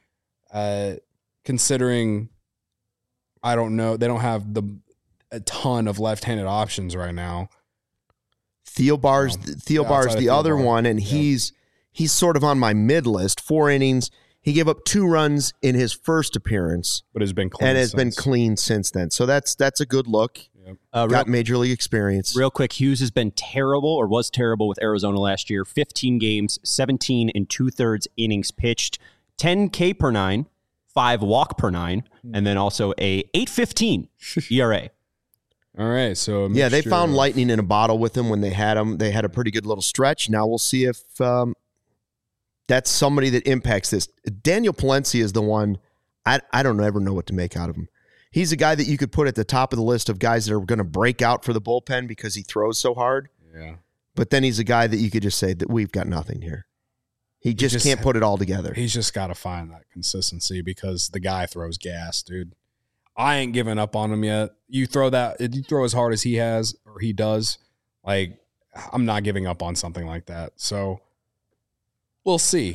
considering, I don't know, they don't have a ton of left-handed options right now. Theobar's the other one, and he's sort of on my mid list. 4 innings. He gave up 2 runs in his first appearance, but has been clean and has been clean since then. So that's a good look. Yep. Got major league experience. Real quick, Hughes has been terrible, or was terrible, with Arizona last year. 15 games, 17 2/3 innings pitched, 10 K per 9, 5 walk per 9, and then also a 8.15 ERA. All right, so they found lightning in a bottle with him when they had him. They had a pretty good little stretch. Now we'll see if that's somebody that impacts this. Daniel Palencia is the one. I don't ever know what to make out of him. He's a guy that you could put at the top of the list of guys that are going to break out for the bullpen because he throws so hard. Yeah. But then he's a guy that you could just say that we've got nothing here. He just can't put it all together. He's just got to find that consistency because the guy throws gas, dude. I ain't giving up on him yet. You throw as hard as he has or he does, like, I'm not giving up on something like that. So we'll see.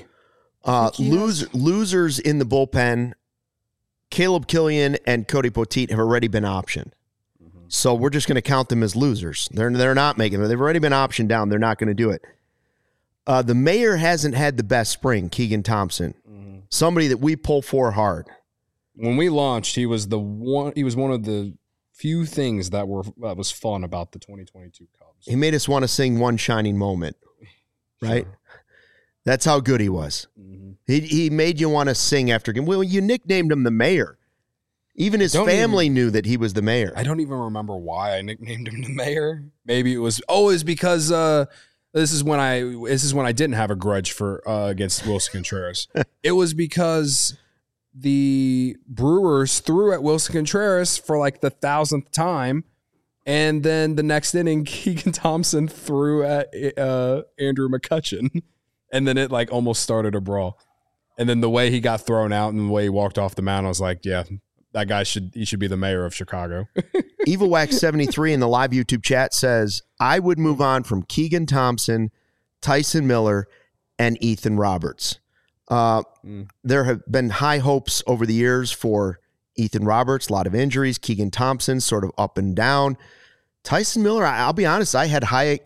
Losers in the bullpen, Caleb Killian and Cody Poteet have already been optioned. Mm-hmm. So we're just going to count them as losers. They're not making it. They've already been optioned down. They're not going to do it. The mayor hasn't had the best spring, Keegan Thompson. Mm-hmm. Somebody that we pull for hard. When we launched, he was one of the few things that was fun about the 2022 Cubs. He made us want to sing One Shining Moment, right? Sure. That's how good he was. Mm-hmm. He made you want to sing after him. Well, you nicknamed him the mayor. Even his family knew that he was the mayor. I don't even remember why I nicknamed him the mayor. Maybe it was because this is when I didn't have a grudge for against Wilson Contreras. It was because the Brewers threw at Wilson Contreras for like the 1,000th time, and then the next inning, Keegan Thompson threw at Andrew McCutchen, and then it like almost started a brawl. And then the way he got thrown out and the way he walked off the mound, I was like, yeah, that guy should be the mayor of Chicago. EvilWax73 in the live YouTube chat says, I would move on from Keegan Thompson, Tyson Miller, and Ethan Roberts. There have been high hopes over the years for Ethan Roberts, a lot of injuries. Keegan Thompson, sort of up and down. Tyson Miller, I'll be honest, I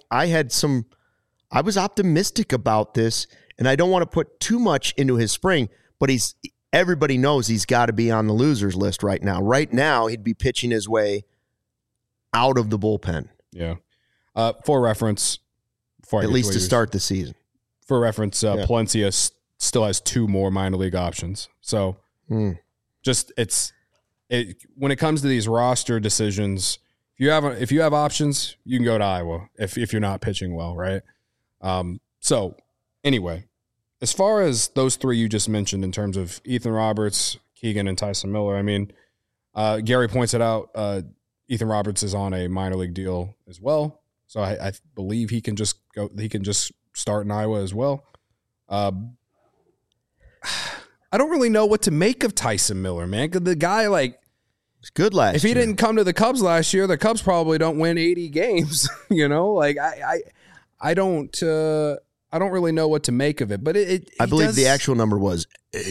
was optimistic about this, and I don't want to put too much into his spring, but everybody knows he's got to be on the losers list right now. Right now, he'd be pitching his way out of the bullpen. Yeah. For reference, at least to start the season. For reference, Palencia still has 2 more minor league options. So when it comes to these roster decisions, if you have options, you can go to Iowa if you're not pitching well, right? So anyway, as far as those 3 you just mentioned in terms of Ethan Roberts, Keegan, and Tyson Miller, I mean, Gary points it out, Ethan Roberts is on a minor league deal as well. So I believe he can just start in Iowa as well. I don't really know what to make of Tyson Miller, man. The guy, like, it's good last year. If he didn't come to the Cubs last year, the Cubs probably don't win 80 games. You know, like I don't really know what to make of it. But I believe the actual number was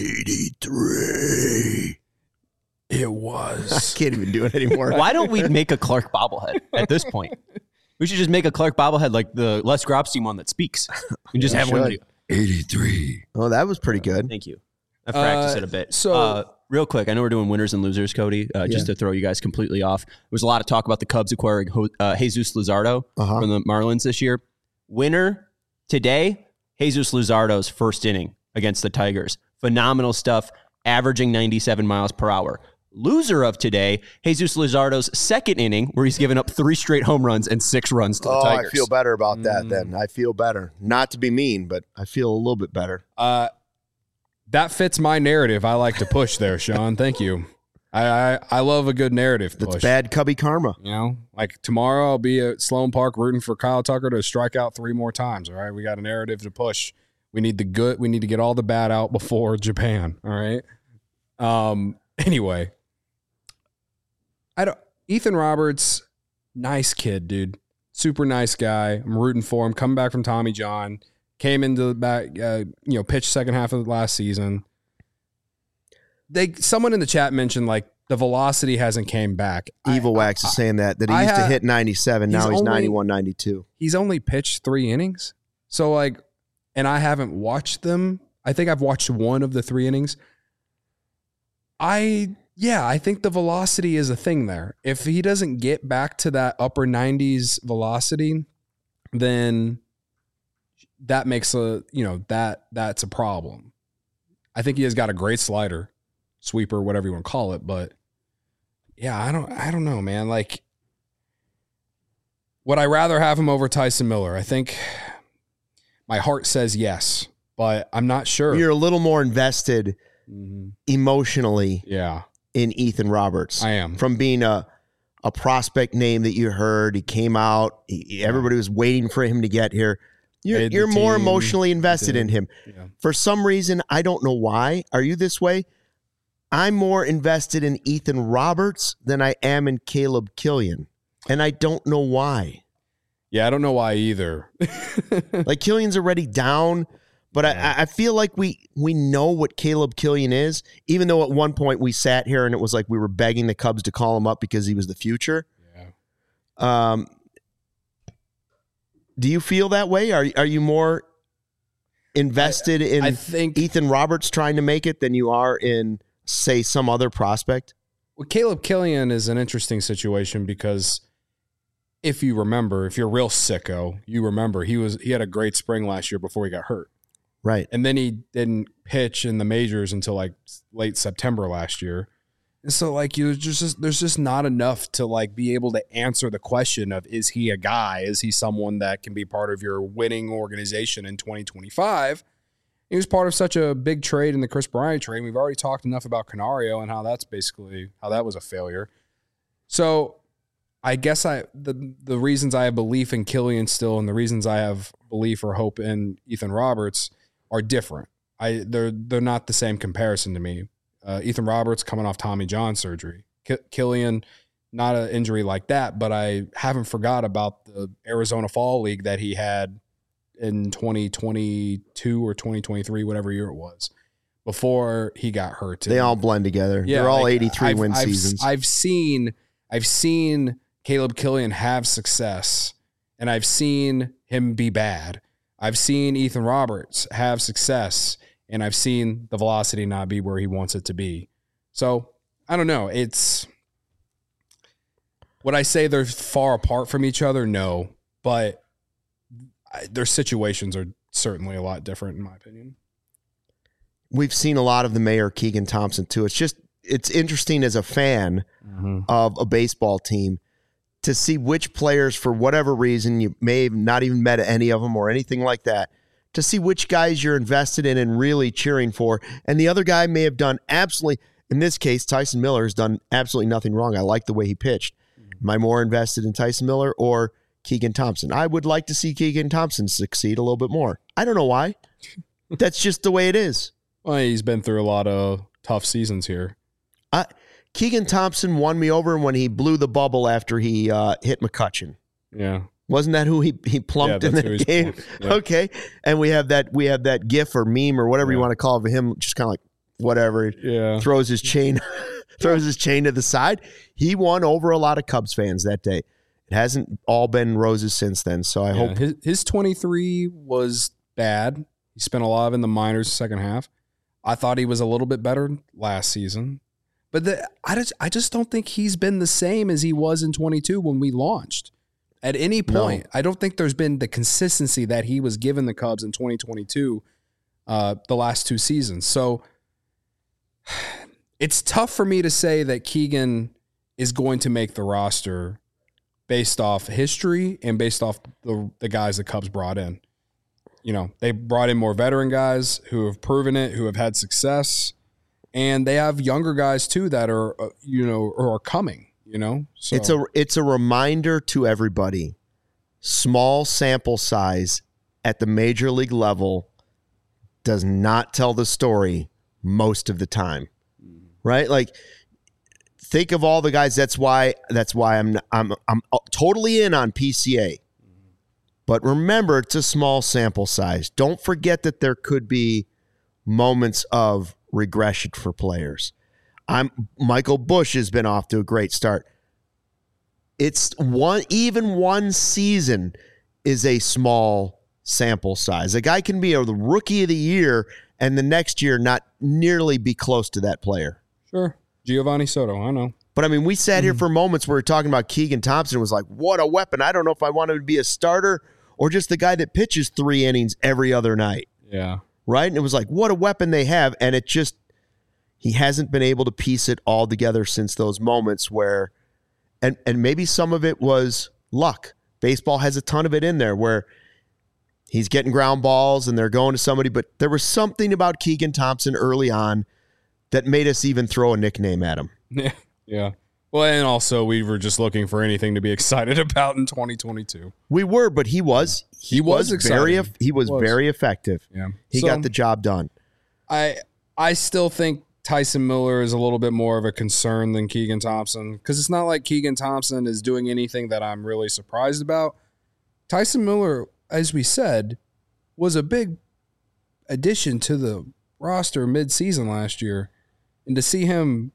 83. It was. I can't even do it anymore. Why don't we make a Clark bobblehead at this point? We should just make a Clark bobblehead like the Les Grobstein one that speaks. And just have one. 83. Oh, that was pretty good. Thank you. I practiced it a bit. So Real quick, I know we're doing winners and losers, Cody, just to throw you guys completely off. There was a lot of talk about the Cubs acquiring Jesus Luzardo from the Marlins this year. Winner today, Jesus Luzardo's first inning against the Tigers. Phenomenal stuff, averaging 97 miles per hour. Loser of today, Jesus Luzardo's second inning, where he's given up 3 straight home runs and 6 runs to the Tigers. I feel better about that then. I feel better. Not to be mean, but I feel a little bit better. That fits my narrative I like to push there, Sean. Thank you. I love a good narrative push. That's bad Cubby karma. You know, like tomorrow I'll be at Sloan Park rooting for Kyle Tucker to strike out 3 more times, all right? We got a narrative to push. We need to get all the bad out before Japan, all right? Anyway, Ethan Roberts, nice kid, dude. Super nice guy. I'm rooting for him. Coming back from Tommy John. Came into the back, pitched second half of the last season. Someone in the chat mentioned like the velocity hasn't came back. Evil Wax is saying that he used to hit 97. Now he's 91, 92. He's only pitched 3 innings. So like, and I haven't watched them. I think I've watched 1 of the 3 innings. I think the velocity is a thing there. If he doesn't get back to that upper 90s velocity, then that makes that's a problem. I think he has got a great slider, sweeper, whatever you want to call it, but yeah, I don't know, man. Like, would I rather have him over Tyson Miller? I think my heart says yes, but I'm not sure. You're a little more invested emotionally in Ethan Roberts. I am. From being a prospect name that you heard, he came out, everybody was waiting for him to get here. You're more emotionally invested in him. Yeah. For some reason, I don't know why. Are you this way? I'm more invested in Ethan Roberts than I am in Caleb Killian. And I don't know why. Yeah, I don't know why either. Like, Killian's already down, but I feel like we know what Caleb Killian is, even though at one point we sat here and it was like we were begging the Cubs to call him up because he was the future. Yeah. Do you feel that way? Are you more invested in Ethan Roberts trying to make it than you are in, say, some other prospect? Well, Caleb Killian is an interesting situation because if you're a real sicko, you remember he had a great spring last year before he got hurt. Right. And then he didn't pitch in the majors until like late September last year. And so like there's just not enough to like be able to answer the question of, is he a guy? Is he someone that can be part of your winning organization in 2025? He was part of such a big trade in the Chris Bryant trade. We've already talked enough about Canario and how that was a failure. So I guess the reasons I have belief in Killian still and the reasons I have belief or hope in Ethan Roberts are different. They're not the same comparison to me. Ethan Roberts coming off Tommy John surgery. Killian, not an injury like that, but I haven't forgot about the Arizona Fall League that he had in 2022 or 2023, whatever year it was, before he got hurt. They all blend together. Yeah, they're all 83 win seasons. I've seen Caleb Killian have success, and I've seen him be bad. I've seen Ethan Roberts have success, and I've seen the velocity not be where he wants it to be. So, I don't know. Would I say they're far apart from each other? No. But their situations are certainly a lot different, in my opinion. We've seen a lot of the Mayor Keegan Thompson, too. It's interesting as a fan of a baseball team to see which players, for whatever reason, you may have not even met any of them or anything like that, to see which guys you're invested in and really cheering for. And the other guy may have done absolutely, in this case, Tyson Miller has done absolutely nothing wrong. I like the way he pitched. Am I more invested in Tyson Miller or Keegan Thompson? I would like to see Keegan Thompson succeed a little bit more. I don't know why. That's just the way it is. Well, he's been through a lot of tough seasons here. Keegan Thompson won me over when he blew the bubble after he hit McCutchen. Yeah. Wasn't that who he plumped in the game? Yeah. Okay. And we have that GIF or meme or whatever you want to call it of him, just kind of like whatever. Yeah. Throws his chain to the side. He won over a lot of Cubs fans that day. It hasn't all been roses since then. So I hope his 23 was bad. He spent a lot of in the minors second half. I thought he was a little bit better last season. But I just don't think he's been the same as he was in 22 when we launched. At any point, I don't think there's been the consistency that he was given the Cubs in 2022, the last 2 seasons. So it's tough for me to say that Keegan is going to make the roster based off history and based off the guys the Cubs brought in. You know, they brought in more veteran guys who have proven it, who have had success, and they have younger guys too that are, or are coming. So it's a reminder to everybody. Small sample size at the major league level does not tell the story most of the time, right? Like, think of all the guys. That's why I'm totally in on PCA. But remember, it's a small sample size. Don't forget that there could be moments of regression for players. Michael Busch has been off to a great start. It's one season is a small sample size. A guy can be the rookie of the year and the next year not nearly be close to that player. Sure. Giovanni Soto, I know. But I mean, we sat here for moments where we were talking about Keegan Thompson. Was like, what a weapon. I don't know if I want him to be a starter or just the guy that pitches 3 innings every other night. Yeah. Right? And it was like, what a weapon they have. And it just, he hasn't been able to piece it all together since those moments where, and maybe some of it was luck. Baseball has a ton of it in there where he's getting ground balls and they're going to somebody. But there was something about Keegan Thompson early on that made us even throw a nickname at him. Yeah. Well, and also we were just looking for anything to be excited about in 2022. We were, but he was very effective. Yeah. He got the job done. I still think Tyson Miller is a little bit more of a concern than Keegan Thompson because it's not like Keegan Thompson is doing anything that I'm really surprised about. Tyson Miller, as we said, was a big addition to the roster mid-season last year. And to see him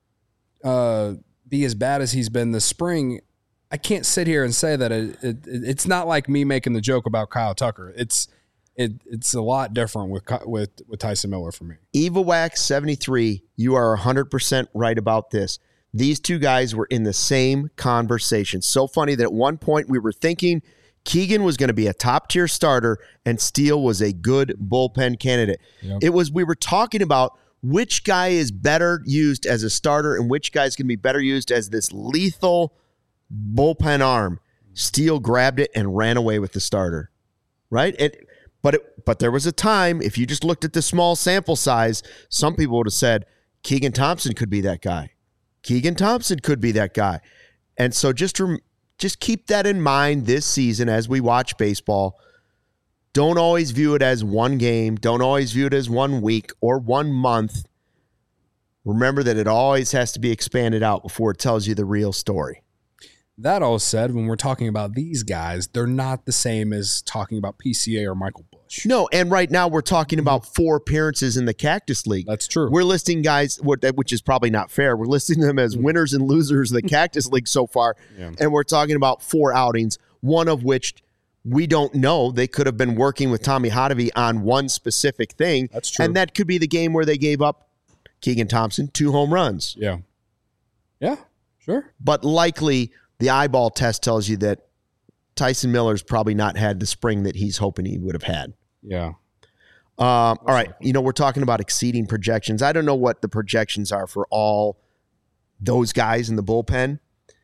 be as bad as he's been this spring, I can't sit here and say that it's not like me making the joke about Kyle Tucker. It's a lot different with Tyson Miller for me. Eva Wax 73, you are 100% right about this. These two guys were in the same conversation. So funny that at one point we were thinking Keegan was going to be a top-tier starter and Steele was a good bullpen candidate. Yep. We were talking about which guy is better used as a starter and which guy is going to be better used as this lethal bullpen arm. Steele grabbed it and ran away with the starter, right? But there was a time, if you just looked at the small sample size, some people would have said, Keegan Thompson could be that guy. Keegan Thompson could be that guy. And so just keep that in mind this season as we watch baseball. Don't always view it as one game. Don't always view it as 1 week or 1 month. Remember that it always has to be expanded out before it tells you the real story. That all said, when we're talking about these guys, they're not the same as talking about PCA or Michael Busch. No, and right now we're talking about 4 appearances in the Cactus League. That's true. We're listing guys, which is probably not fair. We're listing them as winners and losers of the Cactus League so far, and we're talking about 4 outings, one of which we don't know. They could have been working with Tommy Hotovy on one specific thing. That's true. And that could be the game where they gave up Keegan Thompson 2 home runs. Yeah. Yeah, sure. But likely the eyeball test tells you that Tyson Miller's probably not had the spring that he's hoping he would have had. Yeah. All right. We're talking about exceeding projections. I don't know what the projections are for all those guys in the bullpen.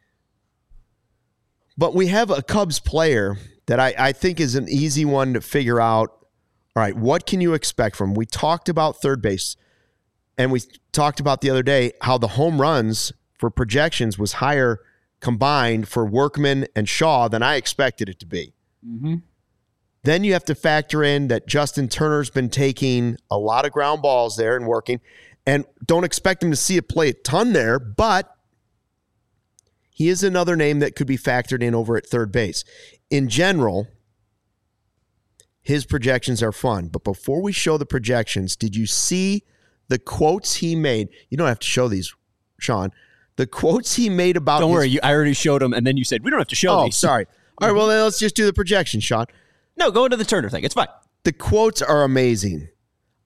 But we have a Cubs player that I think is an easy one to figure out. All right, what can you expect from him? We talked about third base, and we talked about the other day how the home runs for projections was higher combined for Workman and Shaw than I expected it to be. Mm-hmm. Then you have to factor in that Justin Turner's been taking a lot of ground balls there and working, and don't expect him to see it play a ton there, but he is another name that could be factored in over at third base. In general, his projections are fun, but before we show the projections, did you see the quotes he made? You don't have to show these, Sean. The quotes he made about Don't worry, I already showed them, and then you said, we don't have to show these. Oh, sorry. All right, well, then let's just do the projections, Sean. No, go into the Turner thing. It's fine. The quotes are amazing.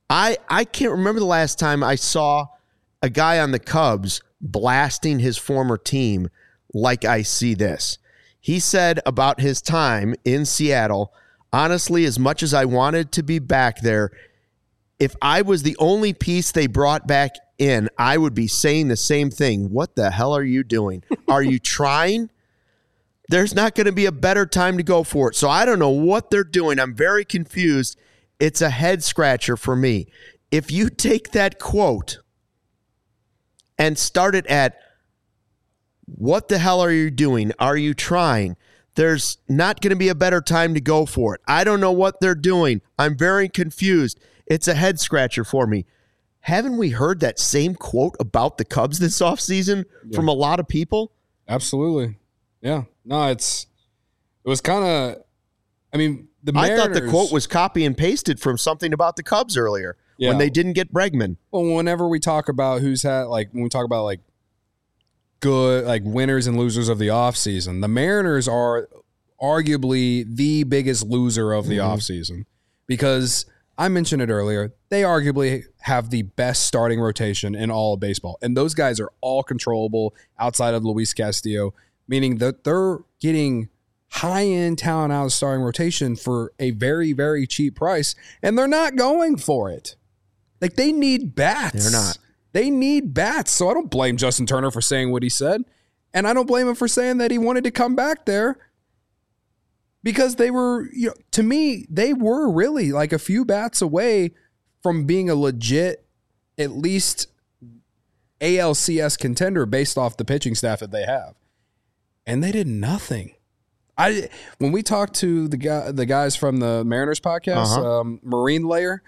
I can't remember the last time I saw a guy on the Cubs blasting his former team like I see this. He said about his time in Seattle, honestly, as much as I wanted to be back there, if I was the only piece they brought back in, I would be saying the same thing. What the hell are you doing? Are you trying? There's not going to be a better time to go for it. So I don't know what they're doing. I'm very confused. It's a head scratcher for me. If you take that quote and start it at, what the hell are you doing? Are you trying? There's not going to be a better time to go for it. I don't know what they're doing. I'm very confused. It's a head scratcher for me. Haven't we heard that same quote about the Cubs this offseason from a lot of people? Absolutely. Yeah. No, it was kind of, I mean, the Mariners, I thought the quote was copy and pasted from something about the Cubs earlier when they didn't get Bregman. Well, whenever we talk about who's had, like, when we talk about, like, good, like, winners and losers of the offseason, the Mariners are arguably the biggest loser of the offseason because I mentioned it earlier. They arguably have the best starting rotation in all of baseball. And those guys are all controllable outside of Luis Castillo, meaning that they're getting high-end talent out of starting rotation for a very, very cheap price. And they're not going for it. Like, they need bats. They're not. They need bats. So I don't blame Justin Turner for saying what he said. And I don't blame him for saying that he wanted to come back there. Because they were, you know, to me, they were really like a few bats away from being a legit, at least ALCS contender based off the pitching staff that they have. And they did nothing. When we talked to the guys from the Mariners podcast, Marine Layer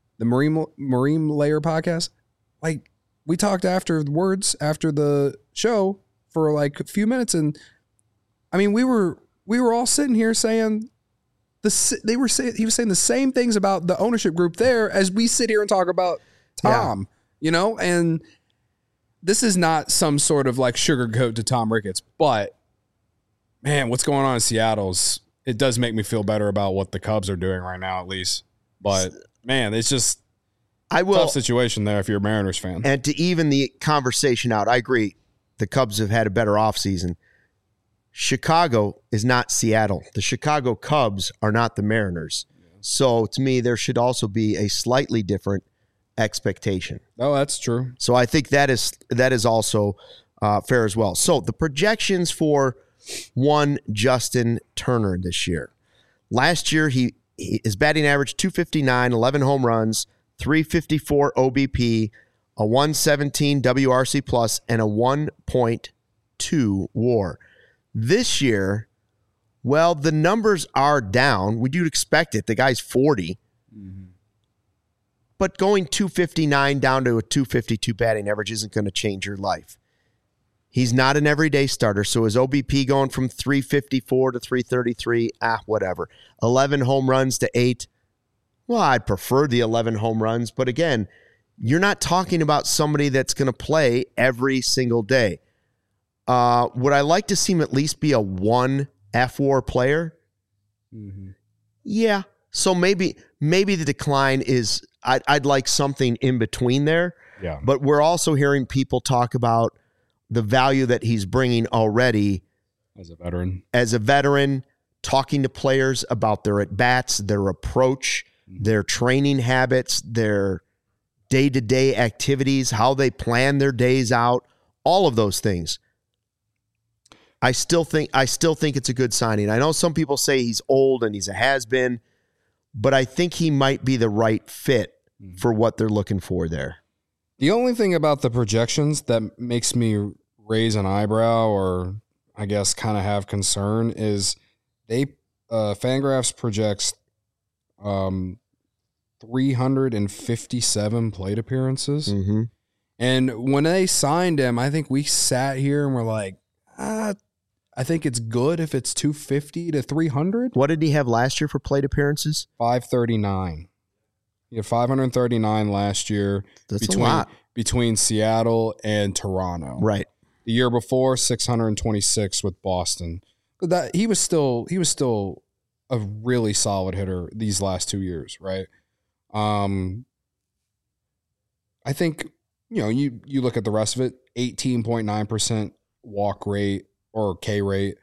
podcast, like we talked afterwards after the show for like a few minutes, and I mean we were all sitting here saying he was saying the same things about the ownership group there as we sit here and talk about Tom, you know, and this is not some sort of like sugarcoat to Tom Ricketts, but man, what's going on in Seattle's, it does make me feel better about what the Cubs are doing right now, at least. But man, it's just a tough situation there if you're a Mariners fan. And to even the conversation out, I agree. The Cubs have had a better offseason. Chicago is not Seattle. The Chicago Cubs are not the Mariners. So to me, there should also be a slightly different expectation. Oh, that's true. So I think that is also fair as well. So the projections for one Justin Turner this year. Last year, his batting average 259, 11 home runs, 354 OBP, a 117 WRC plus, and a 1.2 WAR. This year, well, the numbers are down. We do expect it. The guy's 40. Mm-hmm. But going 259 down to a 252 batting average isn't going to change your life. He's not an everyday starter, so his OBP going from 354 to 333, whatever. 11 home runs to 8. Well, I'd prefer the 11 home runs, but again, you're not talking about somebody that's going to play every single day. Would I like to see him at least be a 1 F-WAR player? Mm-hmm. Yeah. So maybe the decline is I'd like something in between there. Yeah. But we're also hearing people talk about the value that he's bringing already as a veteran, talking to players about their at-bats, their approach, their training habits, their day-to-day activities, how they plan their days out, all of those things. I still think it's a good signing. I know some people say he's old and he's a has-been, but I think he might be the right fit for what they're looking for there. The only thing about the projections that makes me raise an eyebrow or I guess kind of have concern is Fangraphs projects 357 plate appearances. Mm-hmm. And when they signed him, I think we sat here and we're like, I think it's good if it's 250 to 300. What did he have last year for plate appearances? 539. He had 539 last year. That's a lot. Between Seattle and Toronto. Right. The year before, 626 with Boston. That he was still a really solid hitter these last 2 years, right? I think, you look at the rest of it, 18.9% walk rate or K rate,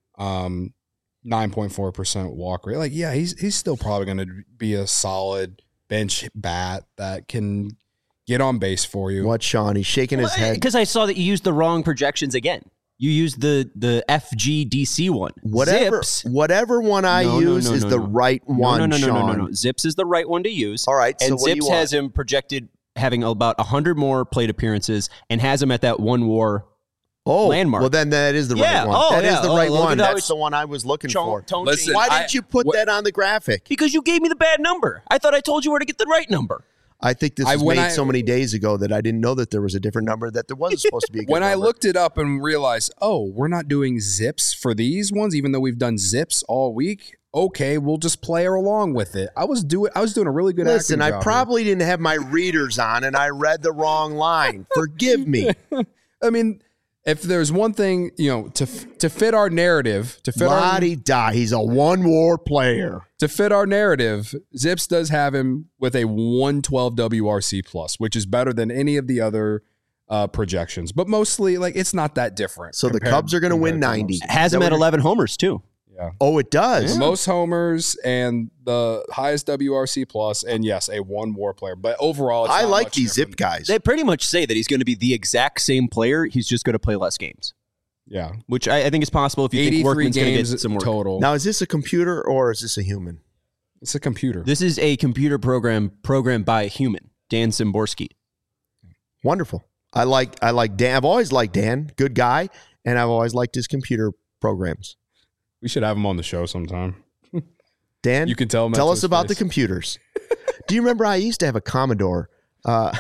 9.4% walk rate. Like, yeah, he's still probably going to be a solid bench bat that can get on base for you. What, Sean? He's shaking his head. Because I saw that you used the wrong projections again. You used the FGDC one. Whatever one I use is the right one, Sean. No. Zips is the right one to use. All right, so and what do you Zips want? has him projected having about 100 more plate appearances and has him at that one WAR landmark. Well, then that is the right one. That is the right one. That's the one I was looking for. Listen, why didn't you put that on the graphic? Because you gave me the bad number. I thought I told you where to get the right number. I think this was made so many days ago that I didn't know that there was a different number, that there wasn't supposed to be a good When number. I looked it up and realized, we're not doing zips for these ones, even though we've done zips all week. Okay, we'll just play along with it. I was doing a really good Listen, acting I job probably didn't have my readers on and I read the wrong line. Forgive me. I mean, if there's one thing, to fit our narrative, La-di-da, he's a one-war player. To fit our narrative, Zips does have him with a 112 WRC plus, which is better than any of the other projections. But mostly, it's not that different. So the Cubs are going to win 90. Has him at 11 homers, too. Yeah. Oh, it does? The most homers and the highest WRC plus, and yes, a one WAR player. But overall, it's I not like much these different. Zip guys. They pretty much say that he's going to be the exact same player. He's just going to play less games. Yeah. Which I think is possible if you think Workman's going to get some work. Total. Now, is this a computer or is this a human? It's a computer. This is a computer program programmed by a human, Dan Szymborski. Wonderful. I like Dan. I've always liked Dan. Good guy. And I've always liked his computer programs. We should have him on the show sometime. Dan, you can tell him. Tell us about the computers. Do you remember I used to have a Commodore? All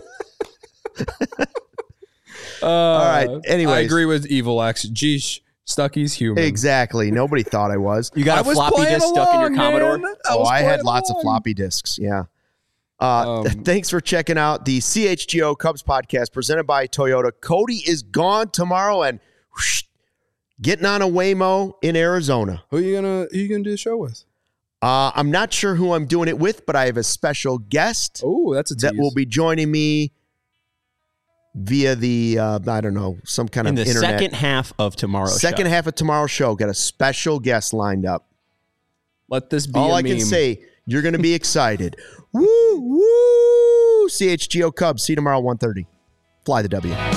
right. Anyways. I agree with Evil X. Geesh, Stucky's human. Exactly. Nobody thought I was. You got a floppy disk stuck in your Commodore? I had lots of floppy disks. Yeah. Thanks for checking out the CHGO Cubs podcast presented by Toyota. Cody is gone tomorrow and getting on a Waymo in Arizona. Who are you gonna do the show with? I'm not sure who I'm doing it with, but I have a special guest. Oh, that's a tease. That will be joining me via the I don't know, some kind of internet. In the internet. second half of tomorrow's show. Second half of tomorrow's show, got a special guest lined up. Let this be all a I meme. can say. You're going to be excited. Woo woo! CHGO Cubs. See you tomorrow 1:30. Fly the W.